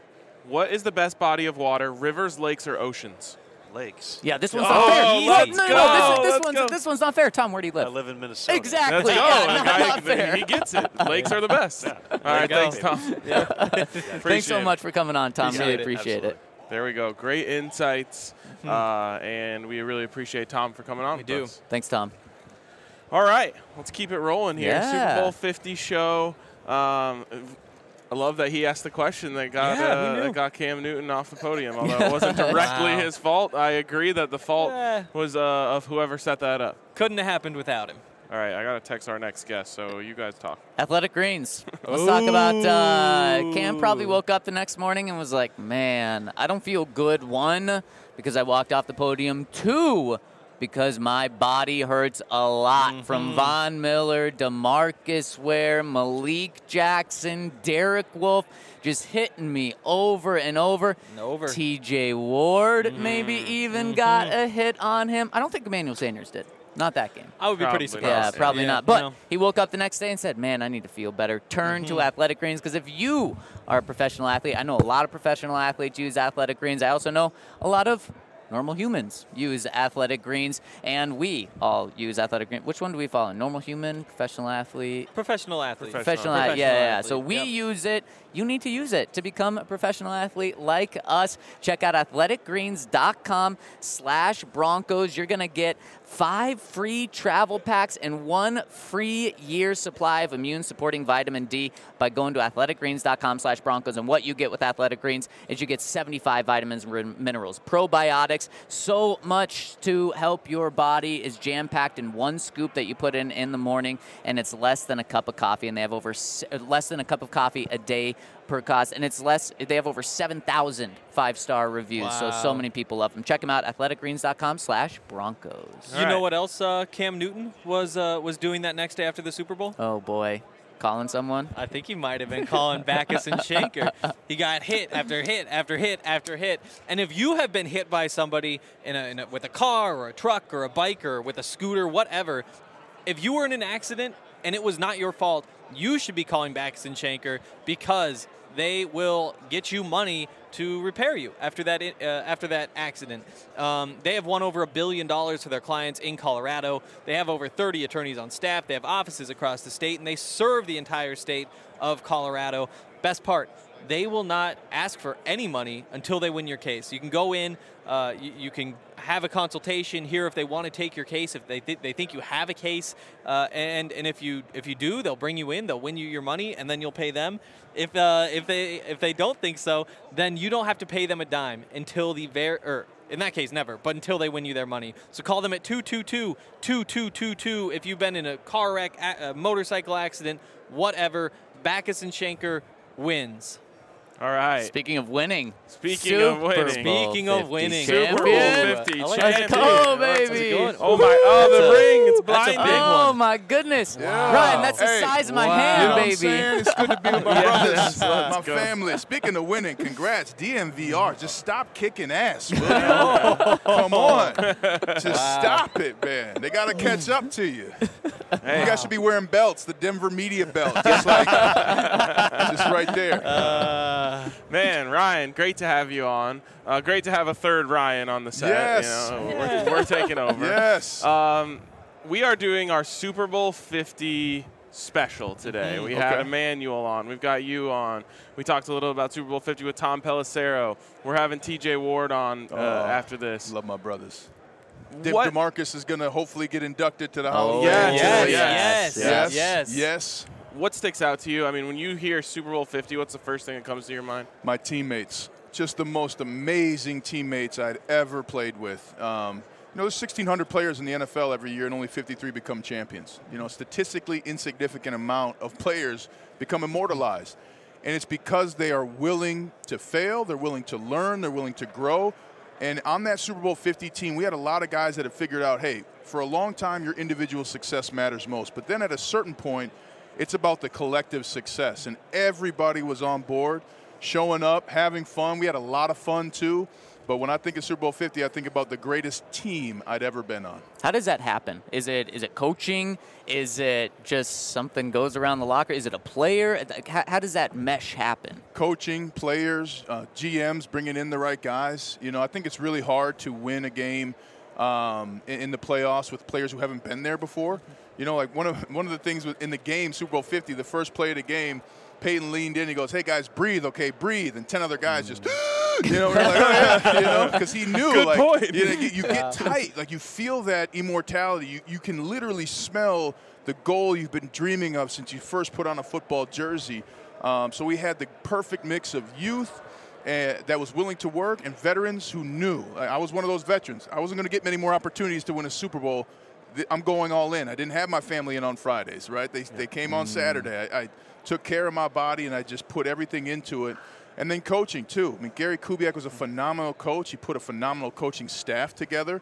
What is the best body of water, rivers, lakes, or oceans? Lakes. Yeah, this one's Oh, not fair. let's no, no, go. no, this, is- this, Let's one's, go. this one's not fair. Tom, where do you I live? live in Minnesota. Exactly. Let's go. Yeah, The not- guy- not fair. He gets it. Lakes are the best. All right, you go. thanks, Tom. Thanks so Appreciate much for coming on, Tom. Appreciate really it. appreciate Absolutely. it. There we go. Great insights, uh, and we really appreciate Tom for coming on. We with do. us. Thanks, Tom. All right, let's keep it rolling here. Yeah. Super Bowl fifty show. Um, I love that he asked the question that got Yeah, who uh, knew? that got Cam Newton off the podium. Although it wasn't directly Wow. his fault, I agree that the fault Eh. was uh, of whoever set that up. Couldn't have happened without him. All right, I gotta text our next guest, so you guys talk. Athletic Greens. Let's talk about uh, Cam probably Ooh. woke up the next morning and was like, man, I don't feel good. One, because I walked off the podium. Two, because my body hurts a lot. From Von Miller, DeMarcus Ware, Malik Jackson, Derek Wolfe, just hitting me over and over. And over. T J Ward maybe even got a hit on him. I don't think Emmanuel Sanders did. Not that game. I would be pretty Probably surprised. not. Yeah, probably Yeah, not. But no. he woke up the next day and said, man, I need to feel better. Turn to Athletic Greens, because if you are a professional athlete, I know a lot of professional athletes use Athletic Greens. I also know a lot of normal humans use Athletic Greens, and we all use Athletic Greens. Which one do we follow? Normal human, professional athlete? Professional athlete. Professional. Professional, athlete. Yeah, Professional yeah, yeah. athlete, So we yep. use it. You need to use it to become a professional athlete like us. Check out athleticgreens.com slash Broncos. You're going to get five free travel packs and one free year supply of immune-supporting vitamin D by going to athleticgreens.com slash Broncos. And what you get with Athletic Greens is you get seventy-five vitamins and minerals, probiotics, so much to help your body is jam-packed in one scoop that you put in in the morning, and it's less than a cup of coffee, and they have over s- less than a cup of coffee a day per cost, and it's less. They have over seven thousand five-star reviews, so so Wow. many people love them. Check them out, athleticgreens.com slash Broncos. You All know right. what else uh, Cam Newton was uh, was doing that next day after the Super Bowl? Oh, boy. Calling someone? I think he might have been calling Backus and Shanker. He got hit after hit after hit after hit. And if you have been hit by somebody in a, in a, with a car or a truck or a bike or with a scooter, whatever, if you were in an accident and it was not your fault, you should be calling Backus and Shanker, because they will get you money to repair you after that uh, after that accident. Um, they have won over a billion dollars for their clients in Colorado. They have over thirty attorneys on staff. They have offices across the state, and they serve the entire state of Colorado. Best part, they will not ask for any money until they win your case. You can go in, uh, you, you can have a consultation, hear if they want to take your case, if they th- they think you have a case, uh, and and if you if you do, they'll bring you in, they'll win you your money, and then you'll pay them. If uh, if they if they don't think so, then you don't have to pay them a dime until the very or in that case never, but until they win you their money. So call them at two two two, two two two two if you've been in a car wreck, a, a motorcycle accident, whatever. Backus and Schenker wins. All right. Speaking of winning. Speaking Super of winning. Speaking of winning. Super Bowl Champion. fifty I like champion. that. Oh, That's a baby. good one. Oh, my. Oh, That's the a- ring. It's that's a blinding. big Oh, one. my goodness. Wow. Ryan, that's the Hey, size of my wow. hand, You know what I'm baby. saying? It's good to be with my Yes, brothers, let's my go. family. Speaking of winning, congrats, D M V R. Just stop kicking ass, man. Come on. Just stop it, man. They got to catch up to you. Hey. You guys should be wearing belts, the Denver media belt, just like, just right there. Uh, Man, Ryan, great to have you on. Uh, great to have a third Ryan on the set. Yes. You know, we're, we're taking over. Yes. Um, we are doing our Super Bowl fifty special today. We had Okay. Emmanuel on. We've got you on. We talked a little about Super Bowl fifty with Tom Pelissero. We're having T J Ward on uh, Oh, after this. Love my brothers. De- What? DeMarcus is going to hopefully get inducted to the Hall Oh, of Yeah, Fame. yes, yes, yes, Yes. yes. Yes. What sticks out to you? I mean, when you hear Super Bowl fifty, what's the first thing that comes to your mind? My teammates, just the most amazing teammates I'd ever played with. Um, you know, there's sixteen hundred players in the N F L every year, and only fifty-three become champions. You know, statistically insignificant amount of players become immortalized. And it's because they are willing to fail, they're willing to learn, they're willing to grow. And on that Super Bowl fifty team, we had a lot of guys that have figured out, hey, for a long time, your individual success matters most. But then at a certain point, it's about the collective success. And everybody was on board, showing up, having fun. We had a lot of fun, too. But when I think of Super Bowl fifty, I think about the greatest team I'd ever been on. How does that happen? Is it is it coaching? Is it just something goes around the locker? Is it a player? How, how does that mesh happen? Coaching, players, uh, G Ms, bringing in the right guys. You know, I think it's really hard to win a game um, in, in the playoffs with players who haven't been there before. You know, like one of one of the things with, in the game, Super Bowl fifty, the first play of the game, Peyton leaned in. He goes, "Hey guys, breathe, okay, breathe." And ten other guys just, you know, we're like, "Oh yeah," you know, because he knew, Good like, point. you, know, you, you get tight, like you feel that immortality. You you can literally smell the goal you've been dreaming of since you first put on a football jersey. Um, so we had the perfect mix of youth uh, that was willing to work and veterans who knew. I, I was one of those veterans. I wasn't going to get many more opportunities to win a Super Bowl. Th- I'm going all in. I didn't have my family in on Fridays, right? They, they came on Saturday. I, I took care of my body, and I just put everything into it. And then coaching, too. I mean, Gary Kubiak was a phenomenal coach. He put a phenomenal coaching staff together.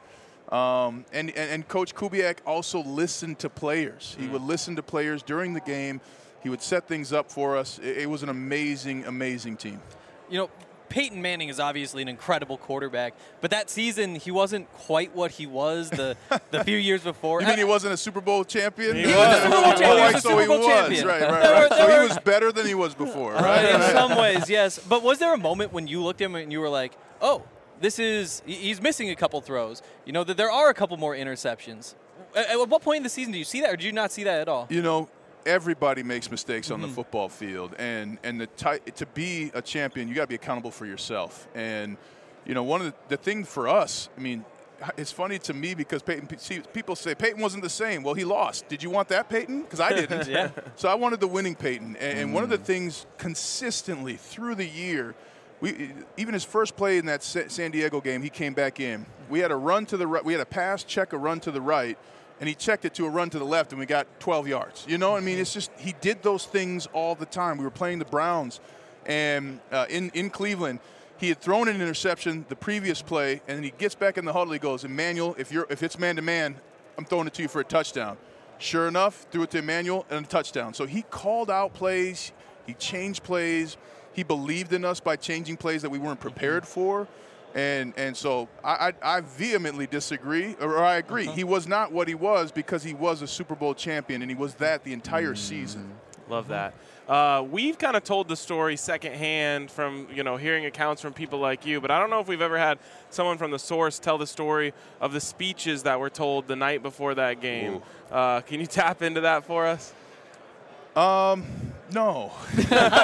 Um, and, and, and Coach Kubiak also listened to players. He would listen to players during the game. He would set things up for us. It, it was an amazing, amazing team. You know, Peyton Manning is obviously an incredible quarterback, but that season he wasn't quite what he was the, the few years before. You mean he wasn't a Super Bowl champion? He He was a Super Bowl champion. Oh, He was a so Super he Bowl was. champion. Right, right, There were- right. So there he were- was better than he was before, right? In Right. some ways, yes. But was there a moment when you looked at him and you were like, oh, this is, he- he's missing a couple throws. You know, that there are a couple more interceptions. At, at what point in the season do you see that, or do you not see that at all? You know, everybody makes mistakes on the Mm-hmm. football field, and and the ty- to be a champion, you got to be accountable for yourself. And you know, one of the, the thing for us, I mean, it's funny to me because Peyton, see, people say Peyton wasn't the same. Well, he lost. Did you want that Peyton? Because I didn't. Yeah. So I wanted the winning Peyton. And, and one of the things consistently through the year, we even his first play in that Sa- San Diego game, he came back in. We had a run to the right. We had a pass, check, a run to the right. And he checked it to a run to the left, and we got twelve yards. You know, I mean, it's just he did those things all the time. We were playing the Browns, and uh, in in Cleveland, he had thrown an interception the previous play, and then he gets back in the huddle. He goes, "Emmanuel, if you're if it's man to man, I'm throwing it to you for a touchdown." Sure enough, threw it to Emmanuel and a touchdown. So he called out plays, he changed plays, he believed in us by changing plays that we weren't prepared for. And and so I, I, I vehemently disagree, or I agree. Uh-huh. He was not what he was because he was a Super Bowl champion, and he was that the entire season. Love that. Uh, we've kind of told the story secondhand from, you know, hearing accounts from people like you, but I don't know if we've ever had someone from the source tell the story of the speeches that were told the night before that game. Uh, can you tap into that for us? Um, No. You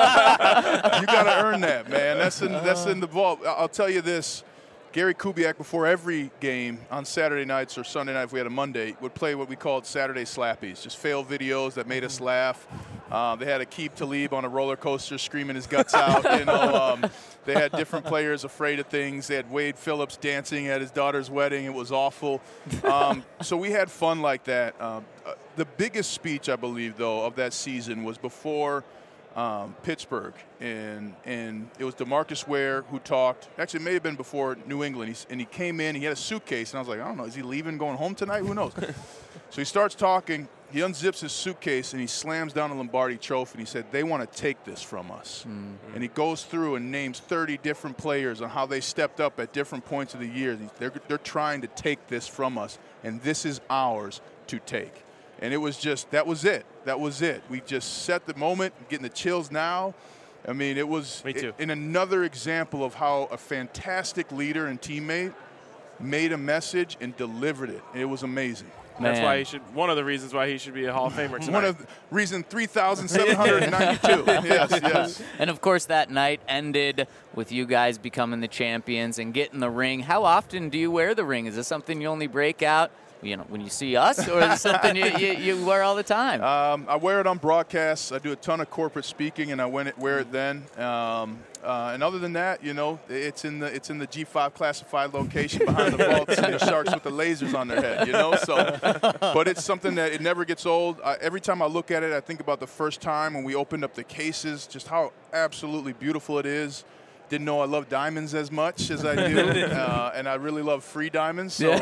got to earn that, man. That's in, that's in the vault. I'll tell you this. Gary Kubiak, before every game on Saturday nights or Sunday night, if we had a Monday, would play what we called Saturday Slappies, just fail videos that made us laugh. Uh, they had Aqib Talib on a roller coaster screaming his guts out. You know, um, they had different players afraid of things. They had Wade Phillips dancing at his daughter's wedding. It was awful. Um, so we had fun like that. Um, uh, the biggest speech, I believe, though, of that season was before Um, Pittsburgh, and and it was DeMarcus Ware who talked. Actually, it may have been before New England. He's, and he came in. He had a suitcase, and I was like, I don't know, is he leaving, going home tonight? Who knows? So he starts talking. He unzips his suitcase and he slams down a Lombardi Trophy. And he said, "They want to take this from us." Mm-hmm. And he goes through and names thirty different players on how they stepped up at different points of the year. They're they're trying to take this from us, and this is ours to take. And it was just, that was it. That was it. We just set the moment, getting the chills now. I mean, it was Me too. It, in another example of how a fantastic leader and teammate made a message and delivered it. It was amazing. That's Man. why he should, one of the reasons why he should be a Hall of Famer tonight. One of the, reason three thousand seven hundred ninety-two. Yes, yes. And of course, that night ended with you guys becoming the champions and getting the ring. How often do you wear the ring? Is this something you only break out, you know, when you see us, or is it something you, you, you wear all the time? Um, I wear it on broadcasts. I do a ton of corporate speaking, and I wear it, wear it then. Um, uh, and other than that, you know, it's in the it's in the G five classified location behind the vaults and the sharks with the lasers on their head. You know, so. But it's something that it never gets old. I, every time I look at it, I think about the first time when we opened up the cases, just how absolutely beautiful it is. Didn't know I love diamonds as much as I do, uh, and I really love free diamonds. So.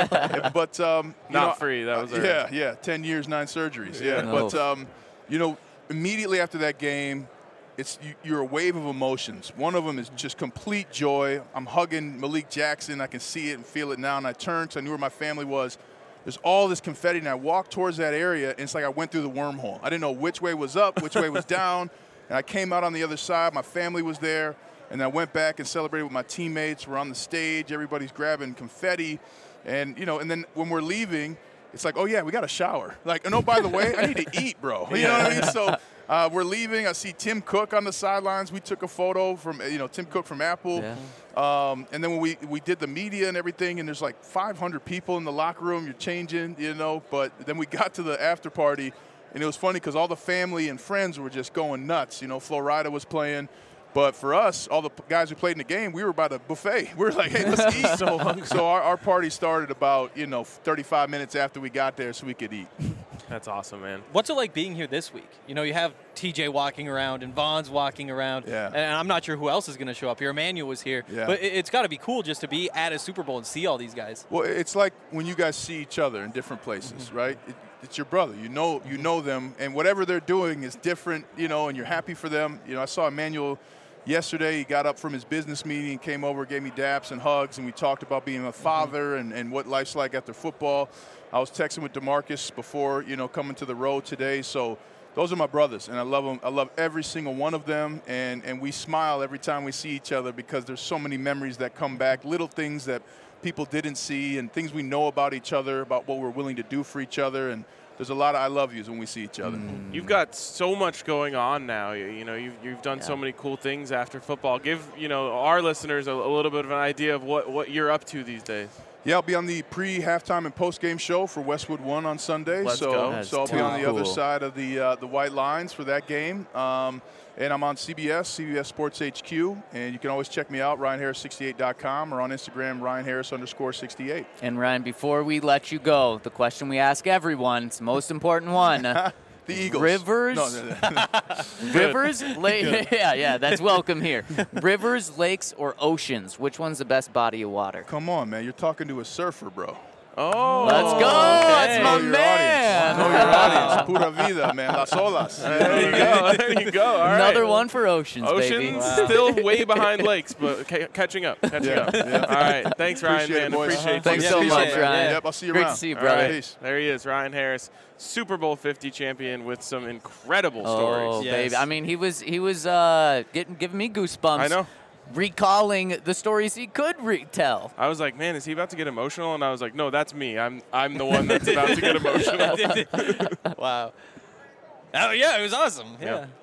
But um, you Not know, free. That was uh, yeah, yeah. Ten years, nine surgeries. Yeah, Yeah. but um, you know, immediately after that game, it's you, you're a wave of emotions. One of them is just complete joy. I'm hugging Malik Jackson. I can see it and feel it now. And I turned because I knew where my family was. There's all this confetti, and I walked towards that area, and it's like I went through the wormhole. I didn't know which way was up, which way was down, and I came out on the other side. My family was there. And I went back and celebrated with my teammates. We're on the stage. Everybody's grabbing confetti. And, you know, and then when we're leaving, it's like, oh, yeah, we got to shower. Like, and oh, by the way, I need to eat, bro. You know what I mean? So uh, we're leaving. I see Tim Cook on the sidelines. We took a photo from, you know, Tim Cook from Apple. Yeah. Um, and then when we, we did the media and everything, and there's like five hundred people in the locker room. You're changing, you know. But then we got to the after party, and it was funny because all the family and friends were just going nuts. You know, Florida was playing. But for us, all the guys who played in the game, we were by the buffet. We were like, hey, let's eat. so so our, our party started about, you know, thirty-five minutes after we got there so we could eat. That's awesome, man. What's it like being here this week? You know, you have T J walking around and Vaughn's walking around. Yeah. And I'm not sure who else is going to show up here. Emmanuel was here. Yeah. But it, it's got to be cool just to be at a Super Bowl and see all these guys. Well, it's like when you guys see each other in different places, mm-hmm. right? It, it's your brother. You know, you know them, and whatever they're doing is different, you know, and you're happy for them. You know, I saw Emmanuel yesterday. He got up from his business meeting, came over, gave me daps and hugs, and we talked about being a father and, and what life's like after football. I was texting with DeMarcus before, you know, coming to the road today. So those are my brothers, and I love them. I love every single one of them, and, and we smile every time we see each other because there's so many memories that come back, little things that people didn't see and things we know about each other, about what we're willing to do for each other. And there's a lot of I love yous when we see each other. You've got so much going on now. You, you know, you've, you've done Yeah. so many cool things after football. Give, you know, our listeners a, a little bit of an idea of what, what you're up to these days. Yeah, I'll be on the pre-halftime and post-game show for Westwood One on Sunday. Let's so, go. That's so I'll be on the cool. other side of the uh, the white lines for that game. Um, and I'm on C B S, C B S Sports H Q, and you can always check me out, Ryan Harris sixty-eight dot com, or on Instagram, Ryan Harris underscore sixty-eight. And Ryan, before we let you go, the question we ask everyone, it's the most important one. The Eagles. Rivers, No, no, no. rivers, lake. Yeah, yeah, that's welcome here. Rivers, lakes, or oceans? Which one's the best body of water? Come on, man. You're talking to a surfer, bro. Oh. Let's go. That's my Know your man. audience. Know your audience. Pura vida, man. Las olas. There you go. There you go. All right. Another one for oceans, baby. Oceans still way behind lakes, but ca- catching up. Catching Yeah, up. yeah. All right. Thanks, Ryan, Appreciate man. it, boys. Appreciate Thanks you. so appreciate much, it. Ryan. Yep, I'll see you Great around. to see you, All brother. right. Peace. There he is, Ryan Harris, Super Bowl fifty champion with some incredible Oh, stories. Yes. baby. I mean, he was he was uh, getting giving me goosebumps. I know. Recalling the stories he could retell. I was like, man, is he about to get emotional? And I was like, no, that's me. I'm I'm the one that's about to get emotional. Wow. Oh, yeah, it was awesome. Yeah. Yeah.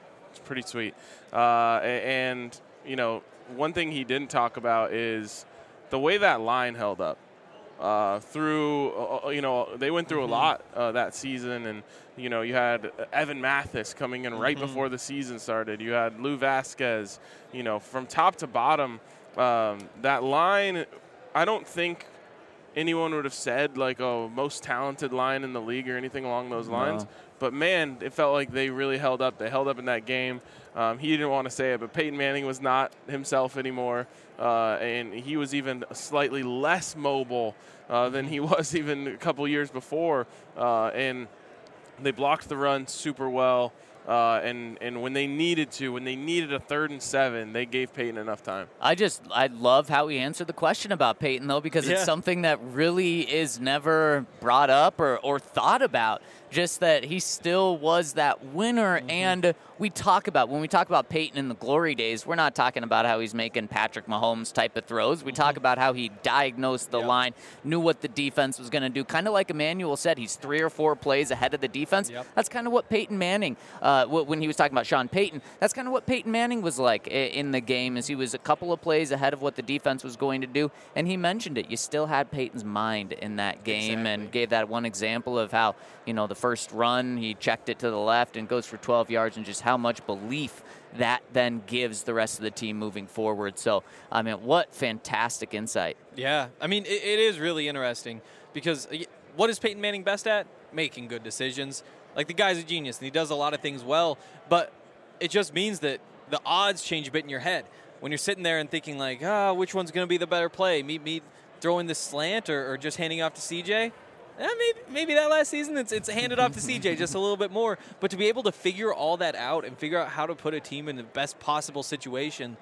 pretty sweet. Uh, and, you know, one thing he didn't talk about is the way that line held up. Uh, through, uh, you know, they went through mm-hmm. a lot uh, that season, and you know, you had Evan Mathis coming in right mm-hmm. before the season started. You had Lou Vasquez. You know, from top to bottom, um, that line. I don't think anyone would have said like, "Oh, most talented line in the league" or anything along those lines. No. But man, it felt like they really held up. They held up in that game. Um, he didn't want to say it, but Peyton Manning was not himself anymore, uh, and he was even slightly less mobile uh, than he was even a couple years before. Uh, and they blocked the run super well. Uh, and, and when they needed to, when they needed a third and seven, they gave Peyton enough time. I just, I love how he answered the question about Peyton, though, because yeah. it's something that really is never brought up or, or thought about. Just that he still was that winner. Mm-hmm. And we talk about, when we talk about Peyton in the glory days, we're not talking about how he's making Patrick Mahomes type of throws. We mm-hmm. talk about how he diagnosed the yep. line, knew what the defense was going to do. Kind of like Emmanuel said, he's three or four plays ahead of the defense. Yep. That's kind of what Peyton Manning, uh, when he was talking about Sean Payton, that's kind of what Peyton Manning was like in the game, is he was a couple of plays ahead of what the defense was going to do. And he mentioned it. You still had Peyton's mind in that game exactly. and gave that one example of how, you know, the first run, he checked it to the left and goes for twelve yards, and just how much belief that then gives the rest of the team moving forward. So, I mean, what fantastic insight. Yeah. I mean, it, it is really interesting because what is Peyton Manning best at? Making good decisions. Like, the guy's a genius, and he does a lot of things well, but it just means that the odds change a bit in your head. When you're sitting there and thinking, like, ah, oh, which one's going to be the better play? Me, me throwing this slant or, or just handing off to C J? Eh, maybe, maybe that last season it's, it's handed off to C J just a little bit more. But to be able to figure all that out and figure out how to put a team in the best possible situation,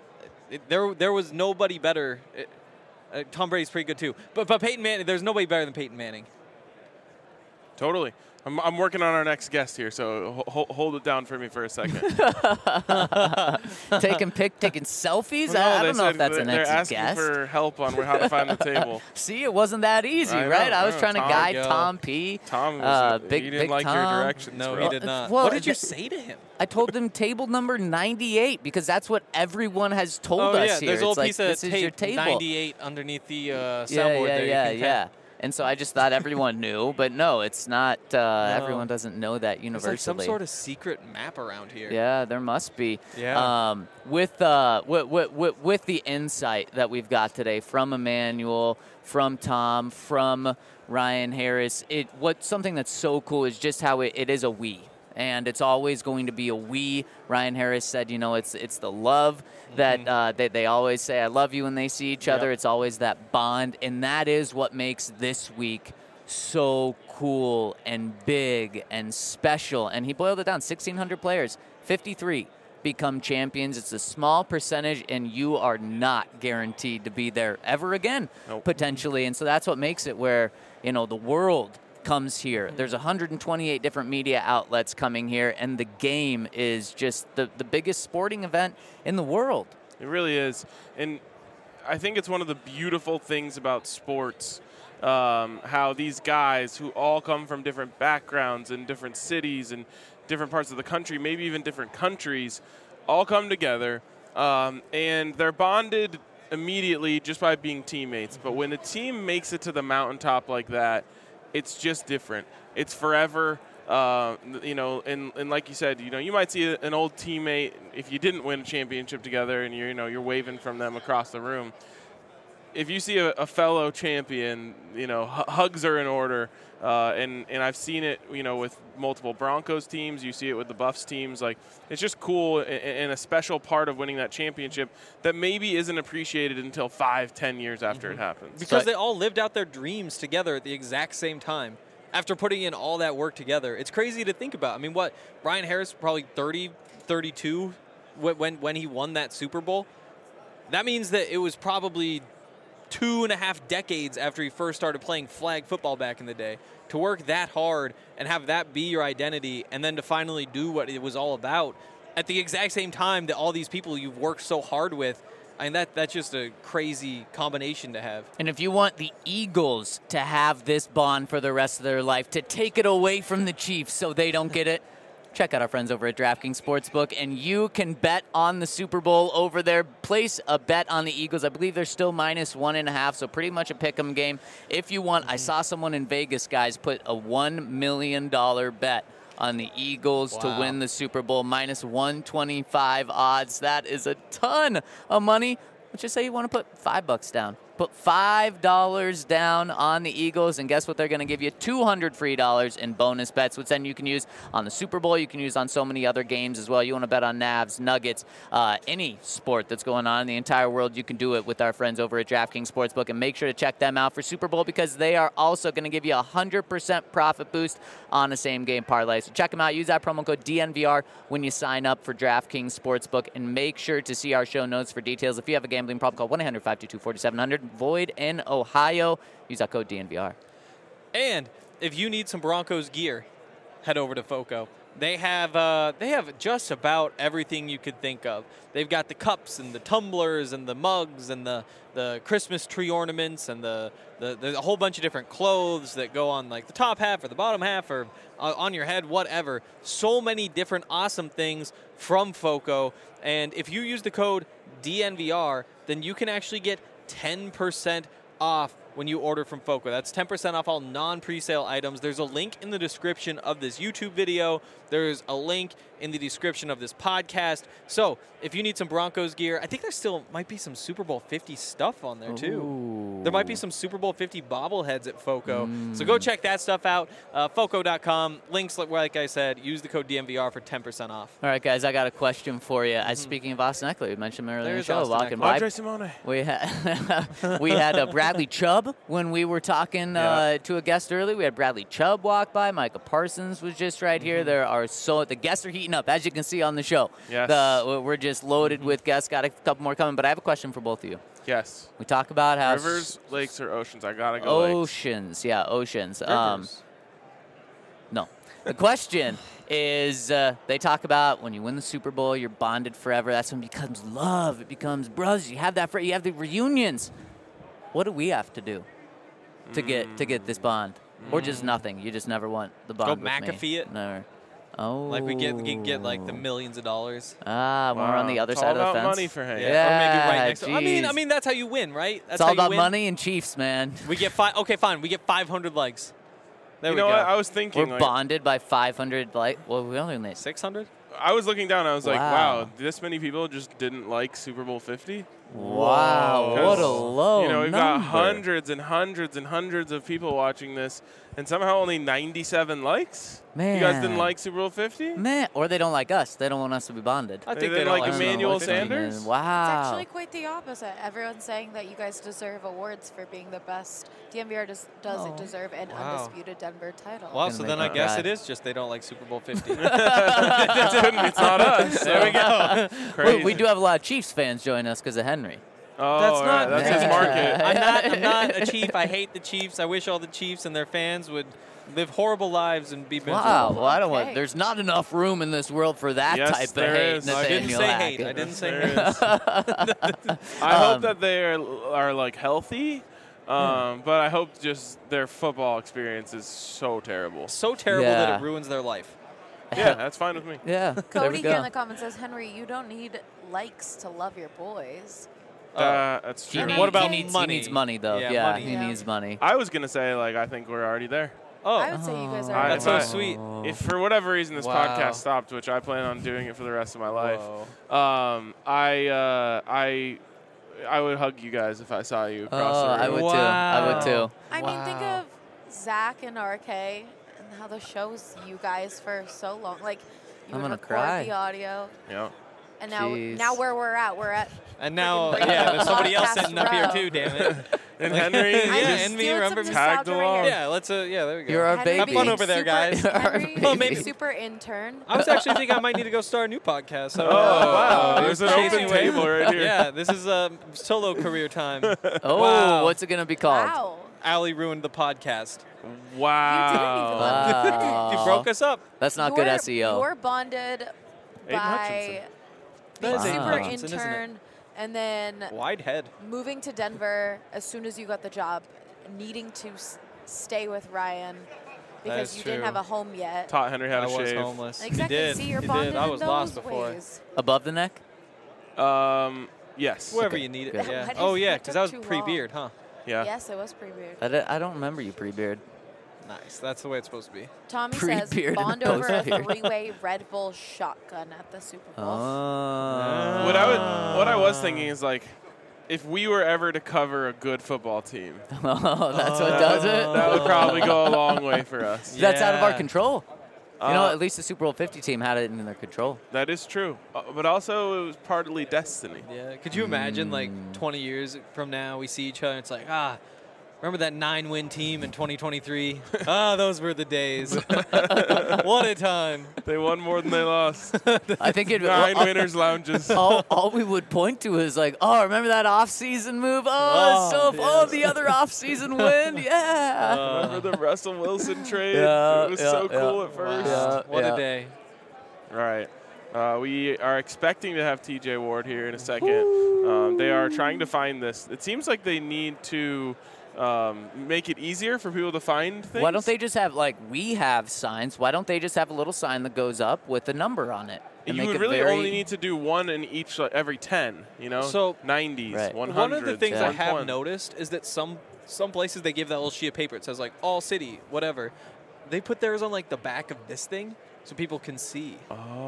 it, there there was nobody better. It, uh, Tom Brady's pretty good too. But, but Peyton Manning, there's nobody better than Peyton Manning. Totally. I'm, I'm working on our next guest here, so ho- hold it down for me for a second. taking pic, taking selfies? No, I don't know if that's an They're next asking guest. for help on how to find the table. See, it wasn't that easy, I right? know, I was I trying know. to Tom, guide go. Tom P. Tom, was uh, a, big, he didn't big like Tom. your directions. No, bro. he did not. Well, what did you th- say to him? I told them table number ninety-eight because that's what everyone has told oh, us yeah, here. There's a little it's piece like, of this tape, is your table. ninety-eight underneath the uh, soundboard yeah, yeah, there. Yeah, you yeah. And so I just thought everyone knew, but no, it's not. Uh, no. Everyone doesn't know that universally. There's like some sort of secret map around here. Yeah, there must be. Yeah. Um, with, uh, with, with, with the insight that we've got today from Emmanuel, from Tom, from Ryan Harris, it what something that's so cool is just how it, it is a we. And it's always going to be a we. Ryan Harris said, you know, it's it's the love that mm-hmm. uh, they, they always say, I love you when they see each yep. other. It's always that bond. And that is what makes this week so cool and big and special. And he boiled it down, sixteen hundred players, fifty-three become champions. It's a small percentage, and you are not guaranteed to be there ever again, nope. potentially. And so that's what makes it where, you know, the world comes here. There's one hundred twenty-eight different media outlets coming here, and the game is just the, the biggest sporting event in the world. It really is. And I think it's one of the beautiful things about sports, um, how these guys who all come from different backgrounds and different cities and different parts of the country, maybe even different countries, all come together, um, and they're bonded immediately just by being teammates. But when a team makes it to the mountaintop like that, it's just different. It's forever, uh, you know, and, and like you said, you know, you might see an old teammate if you didn't win a championship together and you're, you know, you're waving from them across the room. If you see a, a fellow champion, you know, h- hugs are in order, uh, and, and I've seen it, you know, with multiple Broncos teams. You see it with the Buffs teams. Like, it's just cool and, and a special part of winning that championship that maybe isn't appreciated until five, ten years after mm-hmm. it happens. Because but they all lived out their dreams together at the exact same time. After putting in all that work together, it's crazy to think about. I mean, what, Ryan Harris probably thirty, thirty-two when when he won that Super Bowl. That means that it was probably two and a half decades after he first started playing flag football back in the day. To work that hard and have that be your identity, and then to finally do what it was all about at the exact same time that all these people you've worked so hard with. I mean, that that's just a crazy combination to have. And if you want the Eagles to have this bond for the rest of their life, to take it away from the Chiefs so they don't get it, check out our friends over at DraftKings Sportsbook, and you can bet on the Super Bowl over there. Place a bet on the Eagles. I believe they're still minus one and a half, so pretty much a pick-em game. If you want, I saw someone in Vegas, guys, put a one million dollars bet on the Eagles Wow. to win the Super Bowl, minus one twenty-five odds. That is a ton of money. Let's just say you want to put five bucks down. Put five dollars down on the Eagles, and guess what? They're going to give you two hundred free dollars in bonus bets, which then you can use on the Super Bowl. You can use on so many other games as well. You want to bet on Navs, Nuggets, uh, any sport that's going on in the entire world, you can do it with our friends over at DraftKings Sportsbook. And make sure to check them out for Super Bowl, because they are also going to give you a one hundred percent profit boost on the same game parlay. So check them out. Use that promo code D N V R when you sign up for DraftKings Sportsbook, and make sure to see our show notes for details. If you have a gambling problem, call one eight hundred five two two four seven zero zero. Void in Ohio. Use that code D N V R. And if you need some Broncos gear, head over to Foco. They have uh, they have just about everything you could think of. They've got the cups and the tumblers and the mugs and the, the Christmas tree ornaments and the, the there's a whole bunch of different clothes that go on like the top half or the bottom half or uh, on your head, whatever. So many different awesome things from Foco. And if you use the code D N V R, then you can actually get ten percent off when you order from Foco. That's ten percent off all non-presale items. There's a link in the description of this YouTube video. There's a link in the description of this podcast. So if you need some Broncos gear, I think there still might be some Super Bowl fifty stuff on there too. Ooh. There might be some Super Bowl fifty bobbleheads at Foco. Mm. So go check that stuff out. Uh, Foco dot com. Links, like I said, use the code D N V R for ten percent off. All right, guys, I got a question for you. Mm-hmm. As speaking of Austin Eckler, we mentioned him earlier There's in the show, Austin walking Eckler. by. Andre Simone. We had we had uh, Bradley Chubb when we were talking uh, Yeah. to a guest earlier. We had Bradley Chubb walk by. Micah Parsons was just right here. There are so the guests are heating up, as you can see on the show. Yes. The, we're just loaded with guests. Got a couple more coming, but I have a question for both of you. Yes. We talk about how Rivers, lakes, or oceans? I gotta go lakes. oceans, yeah, oceans. Um, Rivers. no. The question is, uh, they talk about when you win the Super Bowl, you're bonded forever. That's when it becomes love. It becomes brothers. You have that. For, you have the reunions. What do we have to do to get to get this bond, or just nothing? You just never want the bond. Go with me. McAfee it. Never. Oh. Like we get we can get like the millions of dollars. Ah, when we're on the Wow. other It's side all of the about fence. money for Hank. Yeah. Or maybe right next to I mean, I geez. mean that's how you win, right? That's It's all how you about win. money and Chiefs, man. We get five. Okay, fine. We get five hundred likes. There You we know go. what? I was thinking. We're like, bonded by five hundred. Like, well, we only need six hundred. I was looking down. I was like, Wow. wow, this many people just didn't like Super Bowl fifty. Wow, Whoa. what a low You know, we've number. got hundreds and hundreds and hundreds of people watching this, and somehow only ninety-seven likes. You guys didn't Man. like Super Bowl fifty? Man, or they don't like us. They don't want us to be bonded. I They think they, didn't don't like like Emmanuel Super Bowl fifty. Sanders? It's Wow. actually quite the opposite. Everyone's saying that you guys deserve awards for being the best. D M V R does, doesn't Oh. deserve an Wow. undisputed Denver title. Well, Gonna so make then me I guess cry. it is just they don't like Super Bowl fifty. It's not us. There we go. Crazy. We, we do have a lot of Chiefs fans join us because of Henry. Oh, That's all not- right, that's his market. I'm not. I'm not a Chief. I hate the Chiefs. I wish all the Chiefs and their fans would live horrible lives and be miserable. Wow. Well, I don't want. Okay. There's not enough room in this world for that Yes, type of there hate. is. No, I didn't Nathaniel say Hackett. hate. I didn't say There hate. is. I Um, hope that they are, are like healthy, um, but I hope just their football experience is so terrible. So terrible that Yeah. it ruins their life. Yeah, that's fine with me. Yeah. there Cody we here in go. the comments says, Henry, you don't need likes to love your boys. Uh, that's He true. needs, What about he needs, money? He needs money, though. Yeah, Yeah, money. he Yeah. needs money. I was gonna say like I think we're already there. Oh, I would say you guys are. I- that's so I- sweet. If for whatever reason this Wow. podcast stopped, which I plan on doing it for the rest of my life, Whoa. um, I uh, I I would hug you guys if I saw you across Oh, the room. I would too. I would Wow. too. I mean, think Wow. of Zach and R K and how the show's you guys for so long. Like, you I'm would gonna record cry. the audio, Yeah. and now Jeez. now where we're at, we're at. And now, Freaking yeah, there's somebody else podcast sitting up here row. too. Damn it. And Henry, Yeah, I'm and me, stealing remember some me? Tagged nostalgia right along. here. Yeah, let's. Uh, yeah, there we go. You're our Henry baby. Have fun being over there, super- guys. Henry Oh, maybe- being super intern. I was actually thinking I might need to go start a new podcast. So, Oh, wow. uh, There's an chasing open away- table right here. Yeah, this is a solo career time. Oh, Wow. what's it gonna be called? Wow. Allie ruined the podcast. Wow. Wow. You broke us up. That's not good You're- S E O. You're bonded Aiden by Hutchinson. being That is super Aiden Hutchinson, isn't it? intern, and then Wide head. moving to Denver as soon as you got the job, needing to s- stay with Ryan, because is you didn't true. have a home yet. Taught Henry how I to was shave. homeless. Exactly. He did. See, you're he bonded did. I in was those lost before. ways. Above the neck? Um, yes. Wherever Okay, you need it. good. Yeah. Why did- Oh yeah, that because took that was too pre-beard, huh? Yeah. Yes, it was pre-beard. I, d- I don't remember you pre-beard. Nice. That's the way it's supposed to be. Tommy says Pre-beard and bond over a post-beard. three-way Red Bull shotgun at the Super Bowl. Oh. What I would, what I was thinking is like, if we were ever to cover a good football team, Oh, that's what does it? that would probably go a long way for us. That's out of our Yeah. control. You know, Uh, at least the Super Bowl fifty team had it in their control. That is true, Uh, but also it was partly destiny. Yeah. Could you imagine, like, Mm. twenty years from now, we see each other and it's like, ah, remember that nine-win team in twenty twenty-three? Ah, those were the days. What a time. They won more than they lost. I think it. Nine all, winners lounges. all, all we would point to is like, oh, remember that off-season move? Oh, Oh, so yes. oh, the other off-season win, yeah. Remember the Russell Wilson trade? Yeah, it was yeah, so yeah. cool at first. Yeah. Wow. What a day. Right. Uh, we are expecting to have T J Ward here in a second. Um, they are trying to find this. It seems like they need to um, make it easier for people to find things. Why don't they just have like we have signs? Why don't they just have a little sign that goes up with a number on it? and You make would it really very- only need to do one in each, like, every ten, you know? So- nineties, Right. one One hundreds, of the things yeah. I have one twenty. noticed is that some some places they give that little sheet of paper. It says like all city, whatever. They put theirs on like the back of this thing so people can see.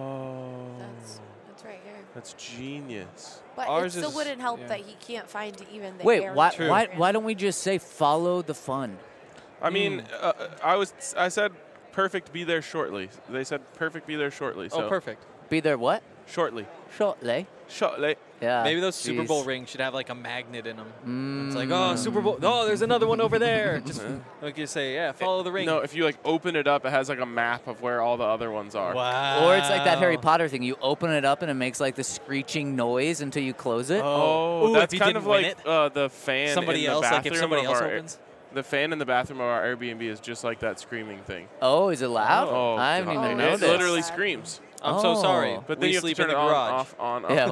Oh. That's that's right here. That's genius. But Ours it still is- wouldn't help yeah. that he can't find even the Wait, area why, we're why, in. why don't we just say follow the fun? I mean, Hmm. uh, I was I said perfect be there shortly. They said perfect be there shortly. So Oh, perfect. Be there what? Shortly. Shortly. Shortly. Yeah. Maybe those Super jeez. Bowl rings should have like a magnet in them. Mm. It's like, oh, Super Bowl. Oh, there's another one over there. Just like you say, yeah, follow the ring. No, if you like open it up, it has like a map of where all the other ones are. Wow. Or it's like that Harry Potter thing. You open it up and it makes like the screeching noise until you close it. Oh, Ooh, that's if you kind didn't of win like it, uh, the fan somebody in the else, bathroom like if somebody of else our, opens. The fan in the bathroom of our Airbnb is just like that screaming thing. Oh, is it loud? Oh, I haven't God. even Oh, It noticed. literally Sad. screams. I'm so Oh. sorry. But then we you have to sleep turn in it the on, garage. off, on, off.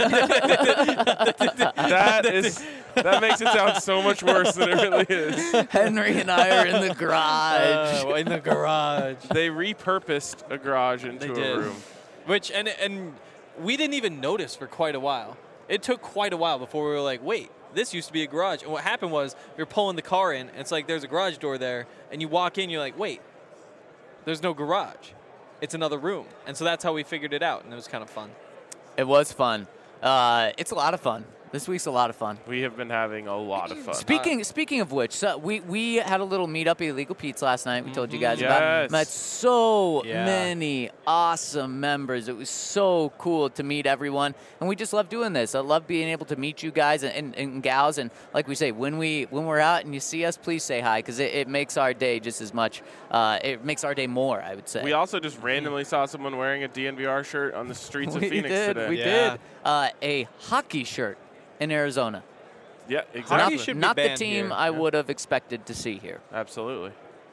Yeah. That is that makes it sound so much worse than it really is. Henry and I are in the garage. Uh, in the garage. They repurposed a garage into They a did. room. Which and and we didn't even notice for quite a while. It took quite a while before we were like, wait, this used to be a garage. And what happened was we were pulling the car in, and it's like there's a garage door there, and you walk in, you're like, wait, there's no garage. It's another room. And so that's how we figured it out, and it was kind of fun. It was fun. Uh, it's a lot of fun. This week's a lot of fun. We have been having a lot of fun. Speaking speaking of which, so we we had a little meetup at Illegal Pete's last night. We told you guys about. Yes. Met so Yeah. many awesome members. It was so cool to meet everyone, and we just love doing this. I love being able to meet you guys and, and, and gals. And like we say, when we when we're out and you see us, please say hi because it, it makes our day just as much. Uh, it makes our day more, I would say. We also just randomly saw someone wearing a D N V R shirt on the streets of We Phoenix did. today. We Yeah. did. Uh, a hockey shirt in Arizona. Yeah, Not, exactly. Hockey should be not the banned team here. I Yeah. would have expected to see here. Absolutely.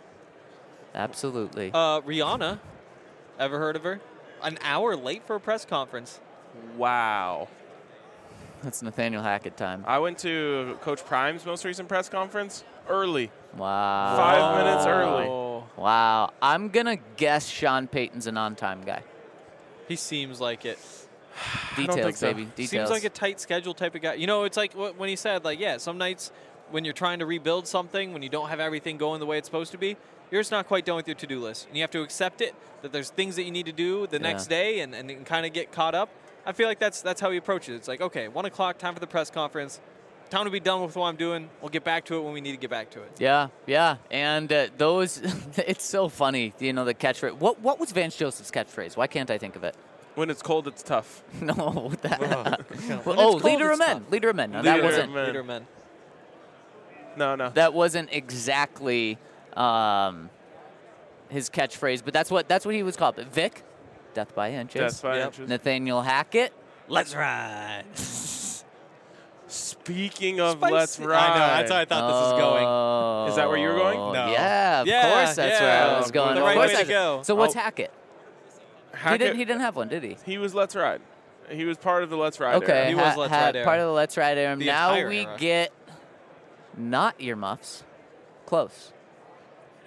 Absolutely. Uh, Rihanna, ever heard of her? An hour late for a press conference. Wow. That's Nathaniel Hackett time. I went to Coach Prime's most recent press conference early. Wow. Five minutes early. Oh, Wow. I'm going to guess Sean Payton's an on-time guy. he seems like it. don't Details, think so. baby. Details. Seems like a tight schedule type of guy. You know, it's like wh- when he said, like, yeah, some nights when you're trying to rebuild something, when you don't have everything going the way it's supposed to be, you're just not quite done with your to-do list. And you have to accept it, that there's things that you need to do the Yeah. next day and, and kind of get caught up. I feel like that's that's how he approaches it. It's like, okay, one o'clock, time for the press conference. Time to be done with what I'm doing. We'll get back to it when we need to get back to it. Yeah, yeah. And uh, those, it's so funny, you know, the catchphrase. What, what was Vance Joseph's catchphrase? Why can't I think of it? When it's cold, it's tough. No, what that? When oh, it's cold, leader of it's men. tough. Leader of men. No, that Leader of wasn't. men. Leader men. No, no. That wasn't exactly um, his catchphrase, but that's what that's what he was called. But Vic, death by inches. Death by Yep. inches. Nathaniel Hackett. Let's ride. Speaking of Spicy. Let's Ride. I know. That's how I thought this was going. Oh, Is that where you were going? No. Yeah, of Yeah, course that's yeah. where I was going. The Of right course way to that's- go. So what's Oh. Hackett? Hackett, He didn't. He didn't have one, did he? he was Let's Ride. He was part of the Let's Ride Okay, era. He was ha- Let's ha- Ride era. part of the Let's Ride era. The Now entire we era. get not earmuffs, close.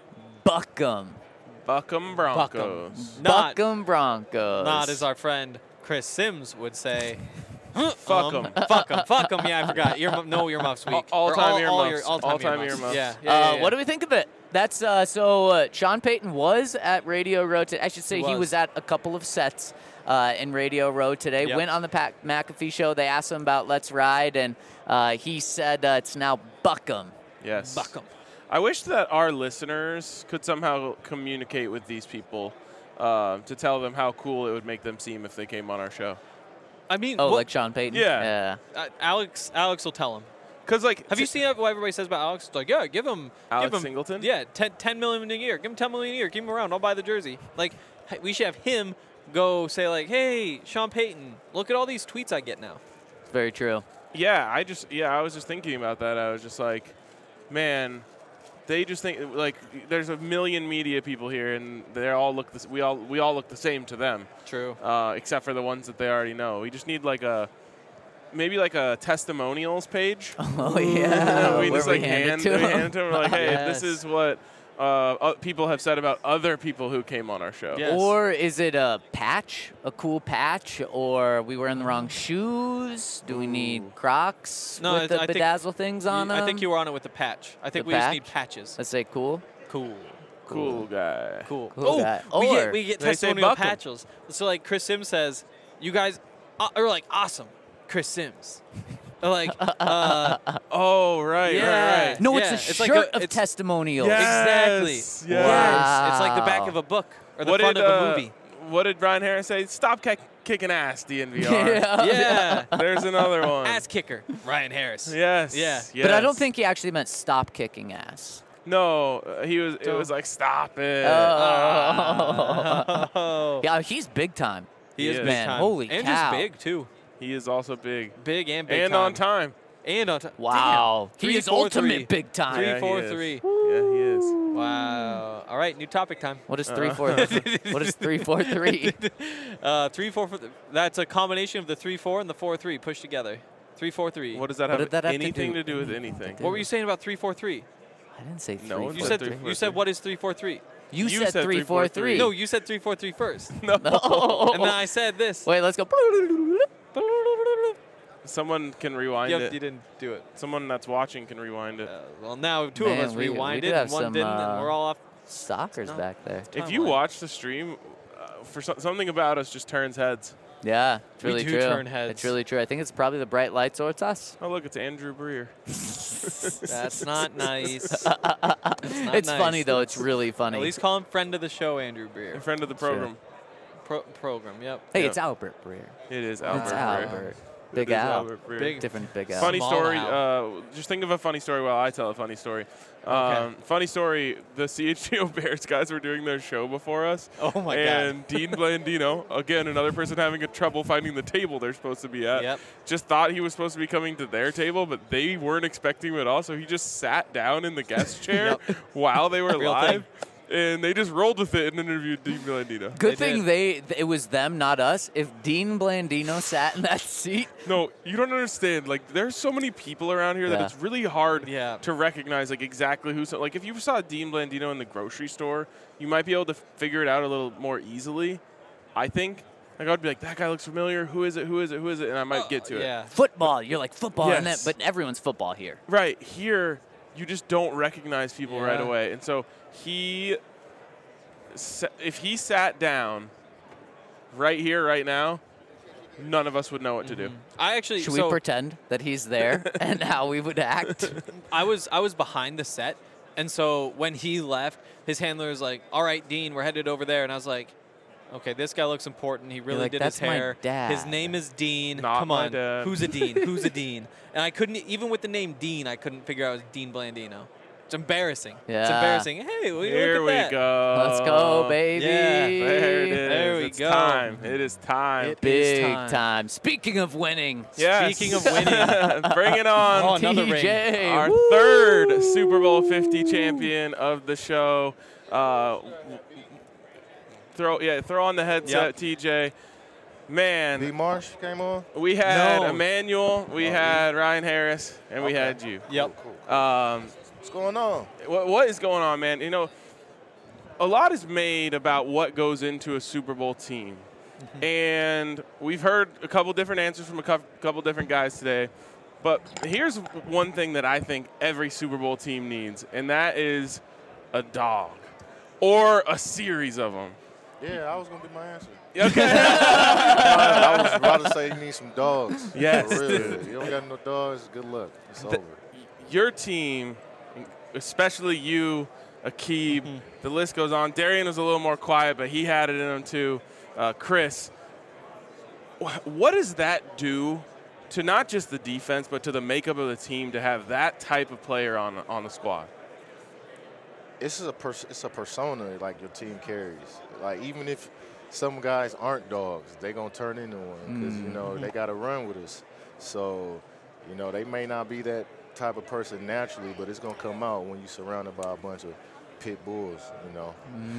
Buck 'em. Buckham Broncos. Buckham. Not, Buck 'em Broncos. not as our friend Chris Sims would say. Fuck um, 'em. Fuck 'em. Fuck 'em. Yeah, I forgot. Ear, no earmuffs week. All- Or all-time all, earmuffs. your- all-time, All-time earmuffs. earmuffs. Yeah. yeah, Uh, yeah, yeah. What do we think of it? That's uh, so. Uh, Sean Payton was at Radio Row today. I should say He he was. was. at a couple of sets uh, in Radio Row today. Yep. Went on the Pat McAfee show. They asked him about Let's Ride, and uh, he said uh, it's now Buck 'em. Yes. Buck 'em. I wish that our listeners could somehow communicate with these people uh, to tell them how cool it would make them seem if they came on our show. I mean, Oh, what- like Sean Payton. Yeah. Yeah. uh, Alex. Alex will tell him. Because, like, Have you seen what everybody says about Alex? It's like, yeah, give him Alex give him, Singleton? Yeah, ten, ten million a year. Give him ten million a year. Keep him around. I'll buy the jersey. Like, hey, we should have him go say like, hey, Sean Payton, look at all these tweets I get now. It's very true. Yeah, I just yeah, I was just thinking about that. I was just like, man, they just think like there's a million media people here, and they all look this. We all we all look the same to them, True. uh, except for the ones that they already know. We just need like a maybe like a testimonials page. Oh yeah. we Where just we like hand, hand, it to we him. hand it to them. We're like, hey, Yes. this is what uh, uh, people have said about other people who came on our show. Yeah. Yes. Or is it a patch, a cool patch, or we were in the wrong shoes? Do we need Crocs No, with I- the I think bedazzle things on You- them? I think you were on it with the patch. I think The we just patch? need patches. Let's say cool. Cool. Cool guy. Cool. Cool oh, guy. we Or get we get they say testimonial buck 'em. patches. So like Chris Sims says, you guys uh, are like awesome, Chris Sims. Or like, uh, Oh right, Yeah. right, right. No, Yeah, it's a it's shirt like a- of it's- testimonials. exactly. Yes, Yes. yes. It's like the back Wow. of a book or the What front did, of a uh, movie. What did Brian Harris say? Stop kick, kicking ass, D N V R. Yeah. Yeah. There's another one. Ass kicker, Ryan Harris. Yes. Yeah. But I don't yes. think he actually meant stop kicking ass. No, uh, he was. It Don't- was like stop it. Oh. Yeah, he's big time. He is Yes. big Man, time. holy and cow. just big too. He is also big Big and big and time. on time. And on time. Wow. Damn. He Three, is four, ultimate three. big time. Three, Yeah, he four, is. three. Yeah, he is. Wow. All right, new topic time. What is Uh. three four? What is three four three? Uh, three, four, four. That's a combination of the three, four, and the four, three pushed together. Three, four, three. What does that What have did that have to anything do- to do with anything? What were you saying about three, four, three? I didn't say three. No, four, it's You Four, said three, you four, said three. what is three, four, three? You, You said, said three three, four four, three. three. No, you said three, four, three first. No. And then I said this. Wait, let's go. Someone can rewind Yep, it. you didn't do it. Someone that's watching can rewind it. Uh, well, now two Man, of us we- we rewinded do have and one some, didn't, uh, and we're all off. Stalkers No. back there. If you timeline. watch the stream, uh, for so- something about us just turns heads. Yeah, it's We really do true. turn heads. It's really true. I think it's probably the bright lights or it's us. Oh look, it's Andrew Breer. That's not nice. That's not It's nice. funny though. It's really funny. At least call him friend of the show, Andrew A Breer. friend of the program. Pro- program, yep. hey, Yeah. it's Albert Breer. It is Albert. It's Breer. Albert. It Big is Al. Albert Breer. Big- Different Big Al. Funny Small story. Al. Uh, just think of a funny story while I tell a funny story. Okay. Um, funny story. The C H G O Bears guys were doing their show before us. Oh my and Dean Blandino, again another person having a trouble finding the table they're supposed to be at, Yep. just thought he was supposed to be coming to their table, but they weren't expecting him at all. So he just sat down in the guest chair Yep. while they were Real live, and they just rolled with it and interviewed Dean Blandino. Good They thing did. they th- it was them, not us. If Dean Blandino sat in that seat, No, you don't understand. Like, there's so many people around here that Yeah. it's really hard Yeah. to recognize, like, exactly who's. Like, if you saw Dean Blandino in the grocery store, you might be able to figure it out a little more easily. I think. Like, I'd be like, that guy looks familiar. Who is it? Who is it? Who is it? And I might get to it. Yeah. football. You're like football, and that, Yes. but everyone's football here. Right here, you just don't recognize people right Yeah. away, and so he, sa- if he sat down, right here, right now, none of us would know what to do. I actually Should so we pretend that he's there and how we would act? I was I was behind the set, and so when he left, his handler was like, "All right, Dean, we're headed over there," and I was like, "Okay, this guy looks important. He really like, did "That's his my hair. dad." His name is Dean. Not Come my on, dad." who's a Dean? Who's a Dean?" And I couldn't even with the name Dean, I couldn't figure out it was Dean Blandino. It's embarrassing. It's Yeah. embarrassing. Hey, will you Here look we at that? go. Let's go, baby. Yeah. There it is. There we it's go. time. It is time. It is Big time. time. Speaking of winning, Yes. Speaking of winning. Bring it on. Oh, another T J. ring. Our Woo! third Super Bowl fifty champion of the show. Uh, throw yeah, throw on the headset, Yep. T J. Man, B. Marsh came on. we had No. Emmanuel, we Oh, had Ryan Harris, and we Okay. had you. Yep. Cool. Um, What's going on? what, what is going on, man? You know, a lot is made about what goes into a Super Bowl team. And we've heard a couple different answers from a cou- couple different guys today. But here's one thing that I think every Super Bowl team needs, and that is a dog or a series of them. Yeah, I was going to be my answer. Okay. I was about to say you need some dogs. Yes. For real. You don't got no dogs, good luck. It's The- over. Your team, especially you, Aqib, mm-hmm. the list goes on. Darian was a little more quiet, but he had it in him too. Uh, Chris, what does that do to not just the defense, but to the makeup of the team to have that type of player on on the squad? It's a pers- it's a persona like your team carries. Like even if some guys aren't dogs, they gonna turn into one because mm-hmm. you know they gotta run with us. So you know they may not be that type of person naturally, but it's gonna come out when you're surrounded by a bunch of pit bulls, you know.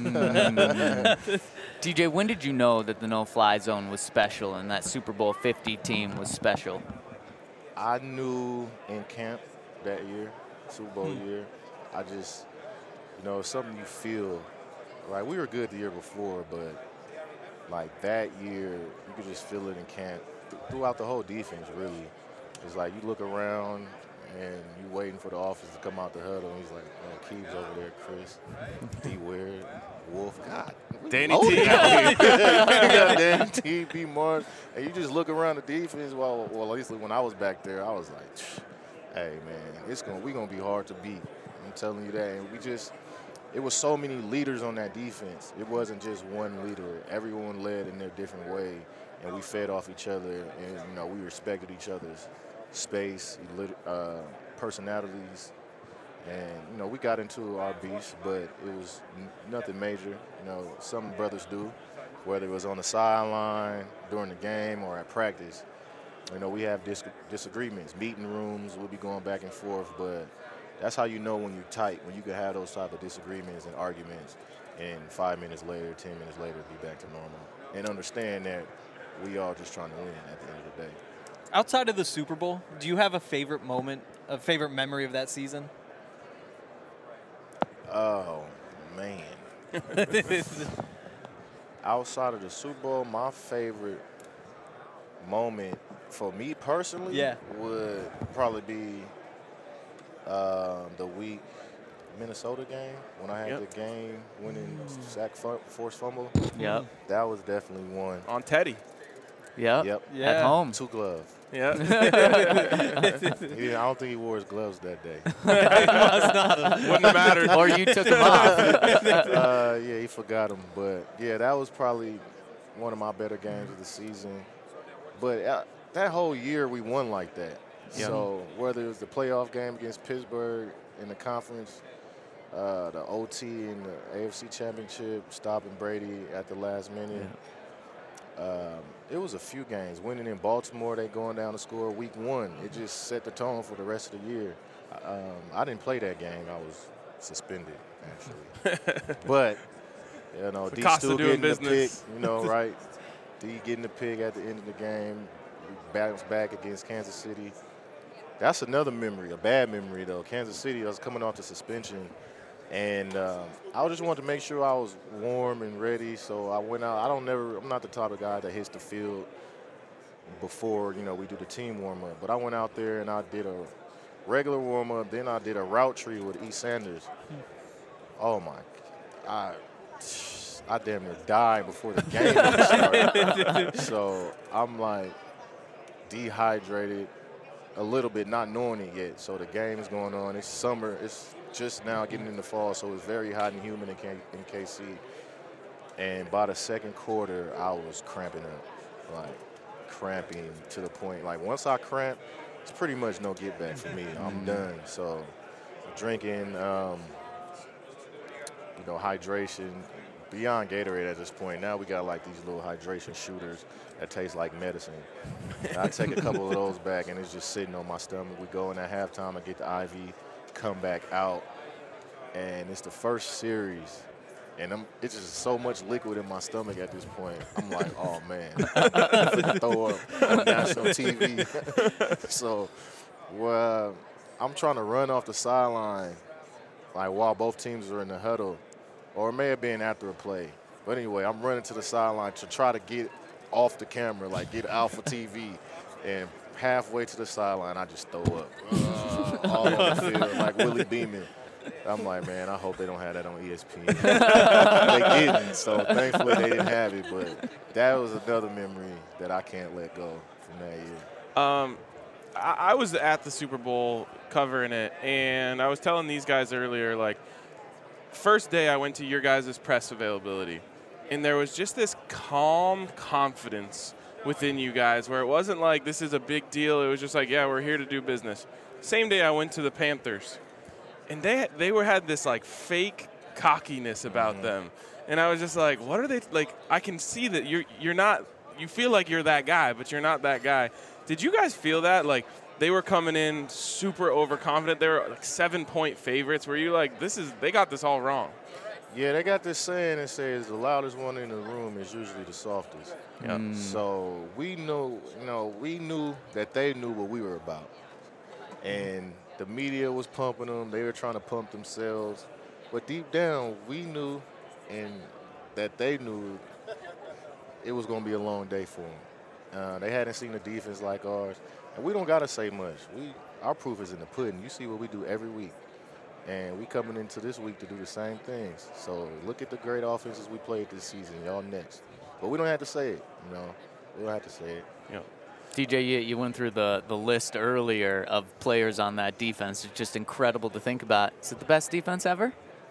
Mm. D J, when did you know that the no-fly zone was special and that Super Bowl fifty team was special? I knew in camp that year, Super Bowl mm. year. I just, you know, it's something you feel. Like we were good the year before, but like that year, you could just feel it in camp th- throughout the whole defense. Really, it's like you look around. And you waiting for the offense to come out the huddle, and he's like, oh, Keeb's over there, Chris. D. Ware, Wolf, God. Danny T. Danny T, B. Martin. And you just look around the defense. Well, well, at least when I was back there, I was like, hey, man, it's gonna we going to be hard to beat. I'm telling you that. And we just, it was so many leaders on that defense. It wasn't just one leader. Everyone led in their different way, and we fed off each other, and, you know, we respected each other's space, uh, personalities, and you know we got into our beefs, but it was n- nothing major. You know, some brothers do, whether it was on the sideline during the game or at practice. You know, we have dis- disagreements, meeting rooms. We'll be going back and forth, but that's how you know when you're tight, when you can have those type of disagreements and arguments, and five minutes later, ten minutes later, be back to normal, and understand that we all just trying to win at the end of the day. Outside of the Super Bowl, do you have a favorite moment, a favorite memory of that season? Oh, man. Outside of the Super Bowl, my favorite moment for me personally yeah. would probably be uh, the week Minnesota game when I had yep. the game winning sack f- forced fumble. Yep. That was definitely one. On Teddy. Yep. Yep. Yeah. At home. Two gloves. Yeah. yeah. I don't think he wore his gloves that day. Must not have. Wouldn't have mattered. Or you took them off. uh, yeah, he forgot them. But, yeah, that was probably one of my better games of the season. But uh, that whole year we won like that. Yep. So whether it was the playoff game against Pittsburgh in the conference, uh, the O T in the A F C Championship, stopping Brady at the last minute. Yeah. Um, it was a few games. Winning in Baltimore, they going down to score week one. It just set the tone for the rest of the year. Um, I didn't play that game. I was suspended, actually. But, you know, D still getting business. the pick, you know, right? D getting the pick at the end of the game. Bounced back against Kansas City. That's another memory, a bad memory, though. Kansas City, I was coming off the suspension. And um, I just wanted to make sure I was warm and ready, so I went out. I don't never. I'm not the type of guy that hits the field before you know we do the team warm up. But I went out there and I did a regular warm up. Then I did a route tree with E. Sanders. Oh my! I I damn near died before the game started. So I'm like dehydrated a little bit, not knowing it yet. So the game is going on. It's summer. It's just now getting into fall, so it's very hot and humid in, K- in K C. And by the second quarter, I was cramping up, like cramping to the point. Like once I cramp, it's pretty much no get back for me. I'm done. So drinking, um, you know, hydration, beyond Gatorade at this point. Now we got like these little hydration shooters that taste like medicine. And I take a couple of those back, and it's just sitting on my stomach. We go in at halftime, I get the I V, come back out, and it's the first series, and I'm, it's just so much liquid in my stomach at this point. I'm like, oh, man, I'm gonna throw up on national T V. So well, I'm trying to run off the sideline, like while both teams are in the huddle, or it may have been after a play. But anyway, I'm running to the sideline to try to get off the camera, like get Alpha T V, and halfway to the sideline, I just throw up uh, all on the field, like Willie Beeman. I'm like, man, I hope they don't have that on E S P N. They didn't, so thankfully they didn't have it. But that was another memory that I can't let go from that year. Um, I, I was at the Super Bowl covering it, and I was telling these guys earlier, like, first day I went to your guys' press availability, and there was just this calm confidence within you guys where it wasn't like this is a big deal. It was just like, yeah, we're here to do business. Same day I went to the Panthers, and they they were had this like fake cockiness about mm-hmm. them, and I was just like, what are they like? I can see that you're you're not. You feel like you're that guy, but you're not that guy. Did you guys feel that? Like they were coming in super overconfident. They were like seven point favorites. Were you like, this is they got this all wrong? Yeah, they got this saying that says the loudest one in the room is usually the softest. Yep. Mm. So we knew, you know, we knew that they knew what we were about. And the media was pumping them. They were trying to pump themselves. But deep down, we knew and that they knew it was going to be a long day for them. Uh, they hadn't seen a defense like ours. And we don't got to say much. We Our proof is in the pudding. You see what we do every week. And we coming into this week to do the same things. So look at the great offenses we played this season. Y'all next. But we don't have to say it, you know. We don't have to say it. Yeah. D J, you, you went through the, the list earlier of players on that defense. It's just incredible to think about. Is it the best defense ever?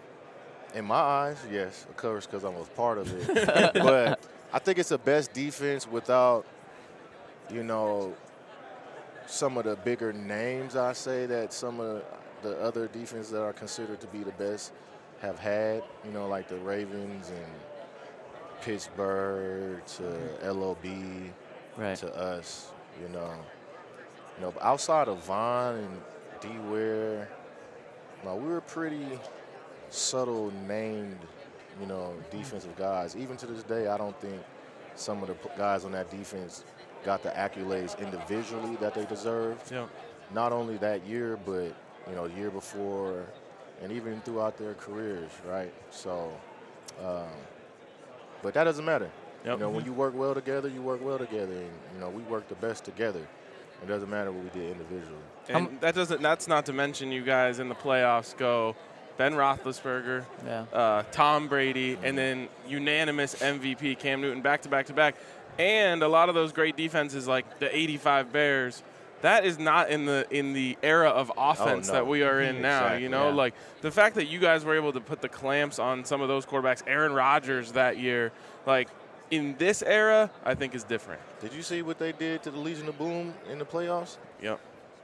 In my eyes, yes. Of course, because I was part of it. But I think it's the best defense without, you know, some of the bigger names, I say, that some of the other defenses that are considered to be the best have had, you know, like the Ravens and Pittsburgh to L O B right. to us, you know. You know, but outside of Vaughn and D. Ware, you know, we were pretty subtle named, you know, defensive guys. Even to this day, I don't think some of the guys on that defense got the accolades individually that they deserved. Yeah. Not only that year, but, you know, the year before and even throughout their careers, right? So, um, but that doesn't matter. Yep. You know, when you work well together, you work well together. And, you know, we work the best together. It doesn't matter what we did individually. And that doesn't. That's not to mention you guys in the playoffs go Ben Roethlisberger, yeah. uh, Tom Brady, and then unanimous M V P Cam Newton back to back to back. And a lot of those great defenses like the eighty-five Bears, that is not in the in the era of offense oh, no. that we are in now. Exactly, you know, yeah. like the fact that you guys were able to put the clamps on some of those quarterbacks, Aaron Rodgers that year, like in this era, I think is different. Did you see what they did to the Legion of Boom in the playoffs? Yep.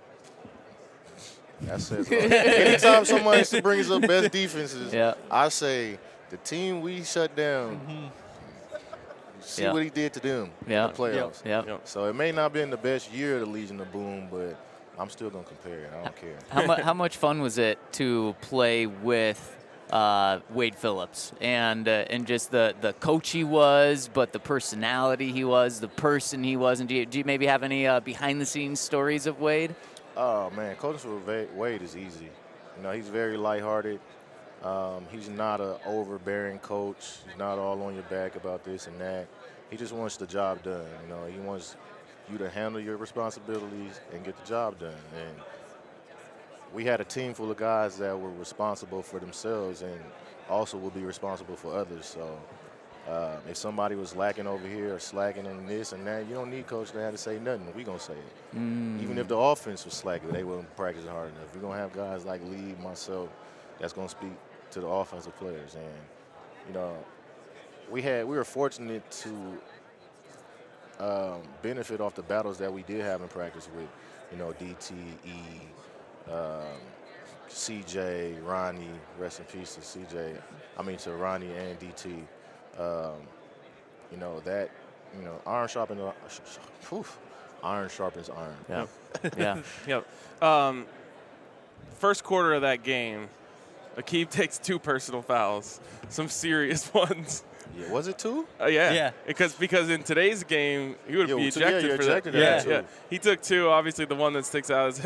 That says a lot. Anytime someone brings up best defenses, yeah. I say the team we shut down. Mm-hmm. See yeah. what he did to them yeah. in the playoffs. Yep. Yep. So it may not have been the best year of the Legion of Boom, but I'm still going to compare it. I don't care. How, mu- how much fun was it to play with uh, Wade Phillips and uh, and just the, the coach he was, but the personality he was, the person he was? And do you, do you maybe have any uh, behind-the-scenes stories of Wade? Oh, man, coaching with Wade is easy. You know, he's very lighthearted. Um, he's not an overbearing coach. He's not all on your back about this and that. He just wants the job done. You know, he wants you to handle your responsibilities and get the job done. And we had a team full of guys that were responsible for themselves and also will be responsible for others. So uh, if somebody was lacking over here or slacking in this and that, you don't need coach to have to say nothing. We're going to say it. Mm. Even if the offense was slacking, they weren't practicing hard enough. We're going to have guys like Lee, myself, that's going to speak to the offensive players. And, you know, we had we were fortunate to um, benefit off the battles that we did have in practice with, you know, D T, E, um, C J, Ronnie, rest in peace to C J, I mean to Ronnie and D T. Um, you know, that, you know, iron sharpens, whew, iron sharpens iron. Yeah. yeah. Yep. Um, first quarter of that game, Aqib takes two personal fouls, some serious ones. Yeah, was it two? Uh, yeah. Yeah. Because because in today's game, he would Yeah, be well, two- yeah, ejected you're for ejected that. after Yeah, two. yeah. He took two. Obviously, the one that sticks out is him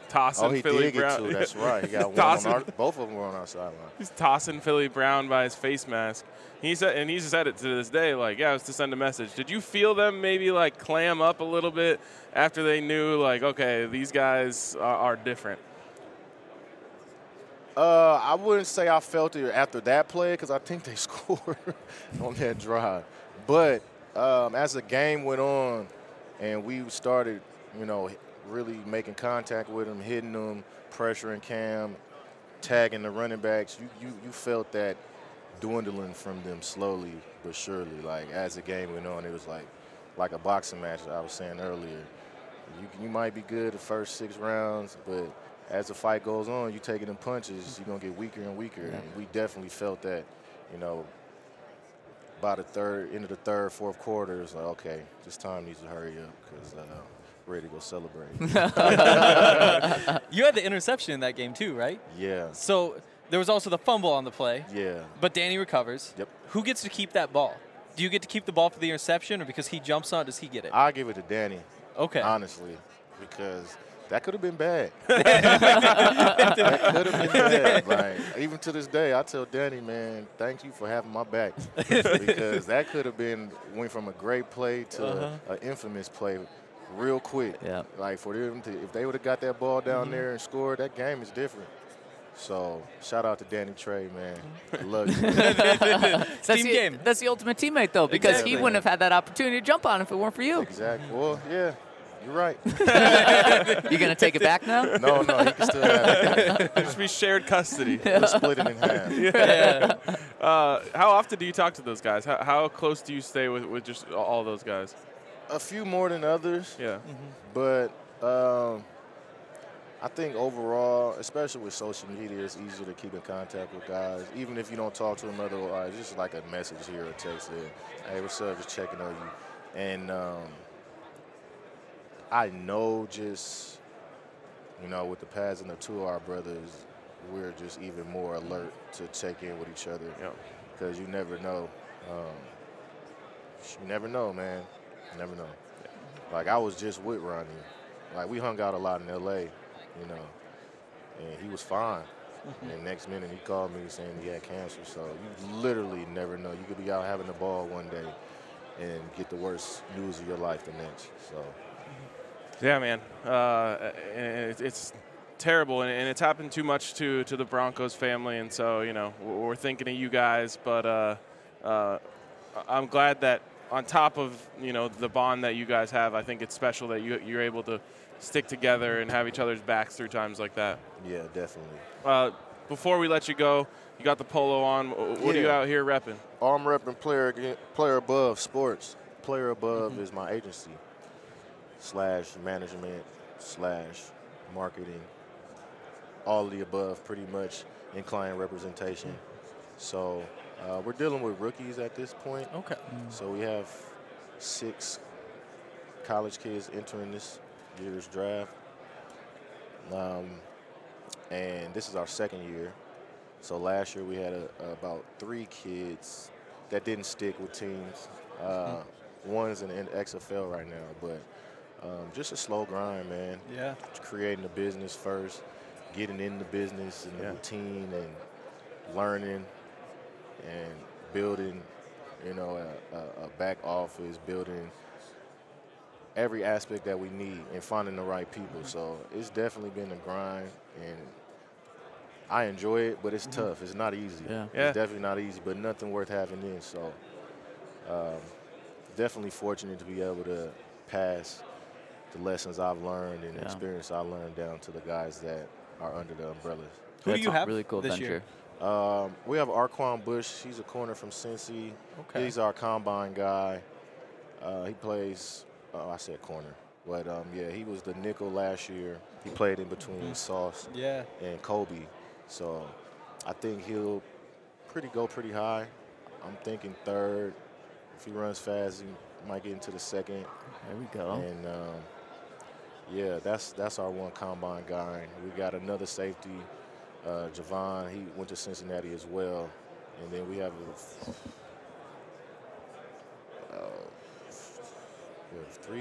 tossing Oh, he Philly did Brown. get two. That's right. He got one on Tossing- our, both of them were on our sideline. He's tossing Philly Brown by his face mask. He said, and he's said it to this day, like, yeah, it was to send a message. Did you feel them maybe like clam up a little bit after they knew, like, okay, these guys are, are different? Uh, I wouldn't say I felt it after that play because I think they scored on that drive. But um, as the game went on and we started, you know, really making contact with them, hitting them, pressuring Cam, tagging the running backs, you, you, you felt that dwindling from them slowly but surely. Like as the game went on, it was like like a boxing match I was saying earlier. You, you might be good the first six rounds, but as the fight goes on, you taking them punches, you're going to get weaker and weaker. Yeah. And we definitely felt that, you know, by the third, into the third, fourth quarter, it's like, okay, this time needs to hurry up because uh, we're ready to go celebrate. You had the interception in that game too, right? Yeah. So there was also the fumble on the play. Yeah. But Danny recovers. Yep. Who gets to keep that ball? Do you get to keep the ball for the interception, or because he jumps on it, does he get it? I'll give it to Danny. Okay. Honestly, because that could have been bad. That could have been bad. Like, even to this day, I tell Danny, man, thank you for having my back. Because that could have been, went from a great play to Uh-huh. an infamous play real quick. Yeah. Like, for them to, if they would have got that ball down Mm-hmm. there and scored, that game is different. So, shout out to Danny Trey, man. I love you. That's Team the, game. That's the ultimate teammate, though, because Exactly. he wouldn't have had that opportunity to jump on if it weren't for you. Exactly. Well, yeah, you're right. You going to take it back now? No, no, you can still have it. There should be shared custody. We'll split it in half. Yeah. Uh, how often do you talk to those guys? How, how close do you stay with, with just all those guys? A few more than others. Yeah. But um, I think overall, especially with social media, it's easier to keep in contact with guys. Even if you don't talk to them otherwise, just like a message here or text there. Hey, what's up? Just checking on you. And um, I know just, you know, with the passing of two of our brothers, we're just even more alert to check in with each other. Yeah. Because you never know. Um, you never know, man. You never know. Like, I was just with Ronnie. Like, we hung out a lot in L A, you know, and he was fine. And next minute he called me saying he had cancer. So you literally never know. You could be out having the ball one day and get the worst news of your life the next. So. Yeah, man. Uh, and it- it's terrible, and and it's happened too much to, to the Broncos family, and so, you know, we're we're thinking of you guys. But uh, uh, I'm glad that on top of, you know, the bond that you guys have, I think it's special that you, you're able to stick together and have each other's backs through times like that. Yeah, definitely. Uh, before we let you go, you got the polo on. What are you Yeah. out here repping? I'm repping Player Again- Player Above Sports. Player Above mm-hmm. is my agency slash management slash marketing. All of the above, pretty much, in client representation. So uh, we're dealing with rookies at this point. Okay. So we have six college kids entering this year's draft. Um, and this is our second year. So last year we had a, about three kids that didn't stick with teams. Uh, one's in the X F L right now, but um, just a slow grind, man. Yeah. Creating the business first, getting in the business and the Yeah. routine and learning and building, you know, a, a, a back office, building every aspect that we need and finding the right people. So it's definitely been a grind, and I enjoy it, but it's tough. It's not easy. Yeah. Yeah. It's definitely not easy, but nothing worth having in. So um, definitely fortunate to be able to pass the lessons I've learned and the Yeah. experience I learned down to the guys that are under the umbrellas. Who That's do you a have really cool this venture. year? Um, we have Arquan Bush. He's a corner from Cincy. Okay. He's our combine guy. Uh, he plays, oh, I said corner. But, um, yeah, he was the nickel last year. He played in between Sauce Yeah. and Kobe. So I think he'll pretty go pretty high. I'm thinking third. If he runs fast, he might get into the second. There we go. And, um, yeah, that's that's our one combine guy. We got another safety, uh, Javon. He went to Cincinnati as well. And then we have a, uh, we have three,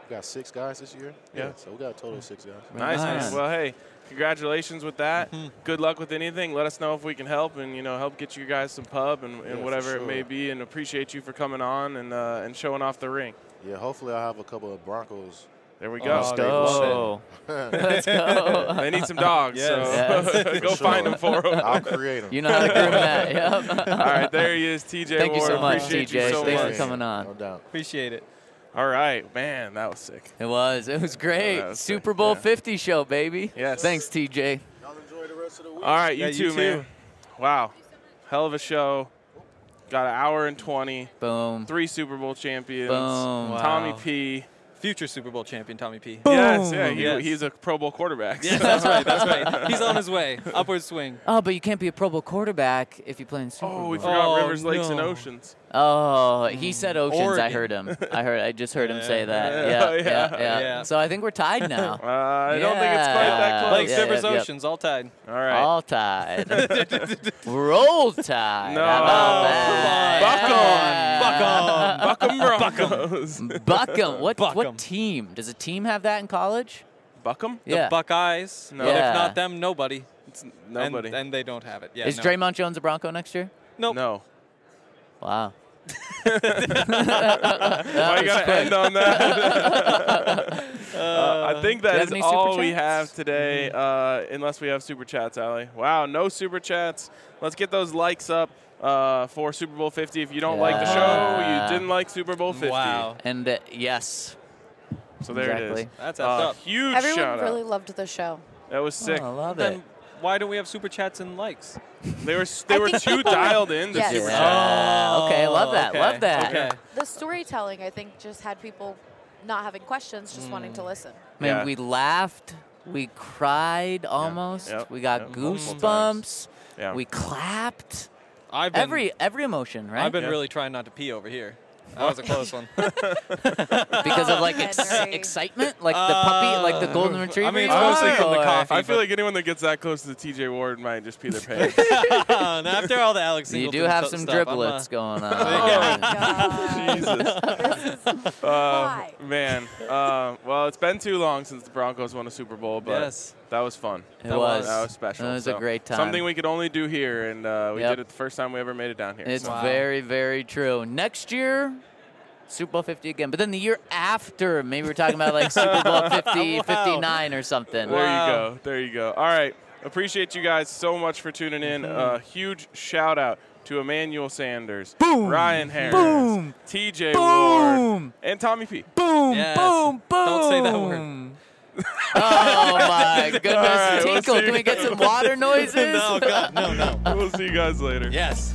we got six guys this year. Yeah. Yeah, so we got a total of six guys. Nice, Nice. man. Well, hey, congratulations with that. Mm-hmm. Good luck with anything. Let us know if we can help and, you know, help get you guys some pub and, and Yeah, for whatever it sure. may be, and appreciate you for coming on and uh, and showing off the ring. Yeah, hopefully I'll have a couple of Broncos. There we Oh, go. Let's go. Let's go. They need some dogs, Yes. so Yes. go For find sure. them for them. I'll create them. You know how to groom that. Yep. All right, there he is, T J Thank you Ward. so much, Appreciate T J. you so Thanks much. for coming on. No doubt. Appreciate it. All right, man, that was sick. It was. It was great. That was sick, Super Bowl yeah. fifty show, baby. Yes. Thanks, T J. Y'all enjoy the rest of the week. All right, you Yeah, too, you too. man. Wow, hell of a show. Got an hour and twenty. Boom. Three Super Bowl champions. Boom. Tommy Wow. P. Future Super Bowl champion Tommy P. Yes, yeah, he, Yes. he's a Pro Bowl quarterback. Yeah, that's right. That's right. He's on his way. Upward swing. Oh, but you can't be a Pro Bowl quarterback if you play in Super Oh, Bowl. we forgot Oh, Rivers, Lakes, and no. Oceans. Oh, he said Oceans. I Oregon. heard him. I heard. I just heard him say that. Yeah, Yeah, yeah, yeah, yeah, yeah. So I think we're tied now. Uh, I don't think it's quite that Yeah. close. Lakes, yeah, Rivers, yeah, yeah. Oceans, all tied. All right. All tied. Roll Tide. No. How about that? Buck 'em. Buck 'em Broncos. Buckham. What Buck 'em. what team? Does a team have that in college? Buck 'em? The Yeah. Buckeyes. No. And Yeah. if not them, nobody. It's nobody. And, and they don't have it. Yeah. Is no. Draymond Jones a Bronco next year? Nope. No. Wow. Why you got to end on that? uh, I think do you that have is any super all we chats? have today, uh, unless we have super chats, Allie. Wow, no super chats. Let's get those likes up uh, for Super Bowl fifty. If you don't like the show, Yeah. you didn't like Super Bowl fifty. Wow. And uh, yes. So there it Exactly. is. That's effed Uh, up. huge Everyone shout really out. loved the show. That was sick. Oh, I love Then it. why don't we have super chats and likes? They were they I were think too people were- dialed in to Yes. super Yeah. chat. Okay, love that. okay. Love that. Okay. The storytelling, I think, just had people not having questions, just wanting to listen. Man, Yeah. we laughed. We cried almost. Yep. We got Yep. Multiple goosebumps. Yeah. We clapped. I've been, Every every emotion, right? I've been Yeah. really trying not to pee over here. That was a close one. because of like Oh, ex- Henry. excitement, like the puppy, like the golden Uh, retriever. I mean, you it's mostly want, from the or- coffee. I feel but- like anyone that gets that close to the T J Ward might just pee their pants. and after all the Alex You Singleton do have stu- some stuff, I'm, uh, driblets going on. Oh, God. Jesus. Uh, Why? man. Uh, well, it's been too long since the Broncos won a Super Bowl, but Yes. that was fun. It that was. That was special. It was So, a great time. Something we could only do here, and uh, we Yep. did it the first time we ever made it down here. It's so. Wow. very, very true. Next year, Super Bowl fifty again. But then the year after, maybe we're talking about like Super Bowl fifty, Wow. fifty-nine or something. There Wow. you go. There you go. All right. Appreciate you guys so much for tuning in. A uh, huge shout out to Emmanuel Sanders, Boom. Ryan Harris, Boom. T J Boom. Ward, and Tommy P. Boom, Yes. boom, boom. Don't say that word. Oh, my goodness. All right, we'll Tinkle, see can you we get some water noises? no, God, no, no. We'll see you guys later. Yes.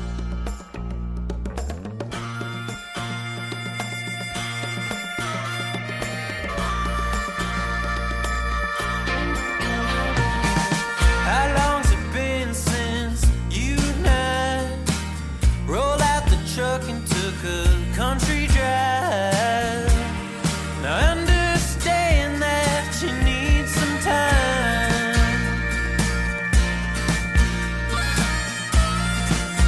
How long's it been since you and I rolled out the truck and took a country drive? Now I understand that you need some time.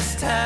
last time.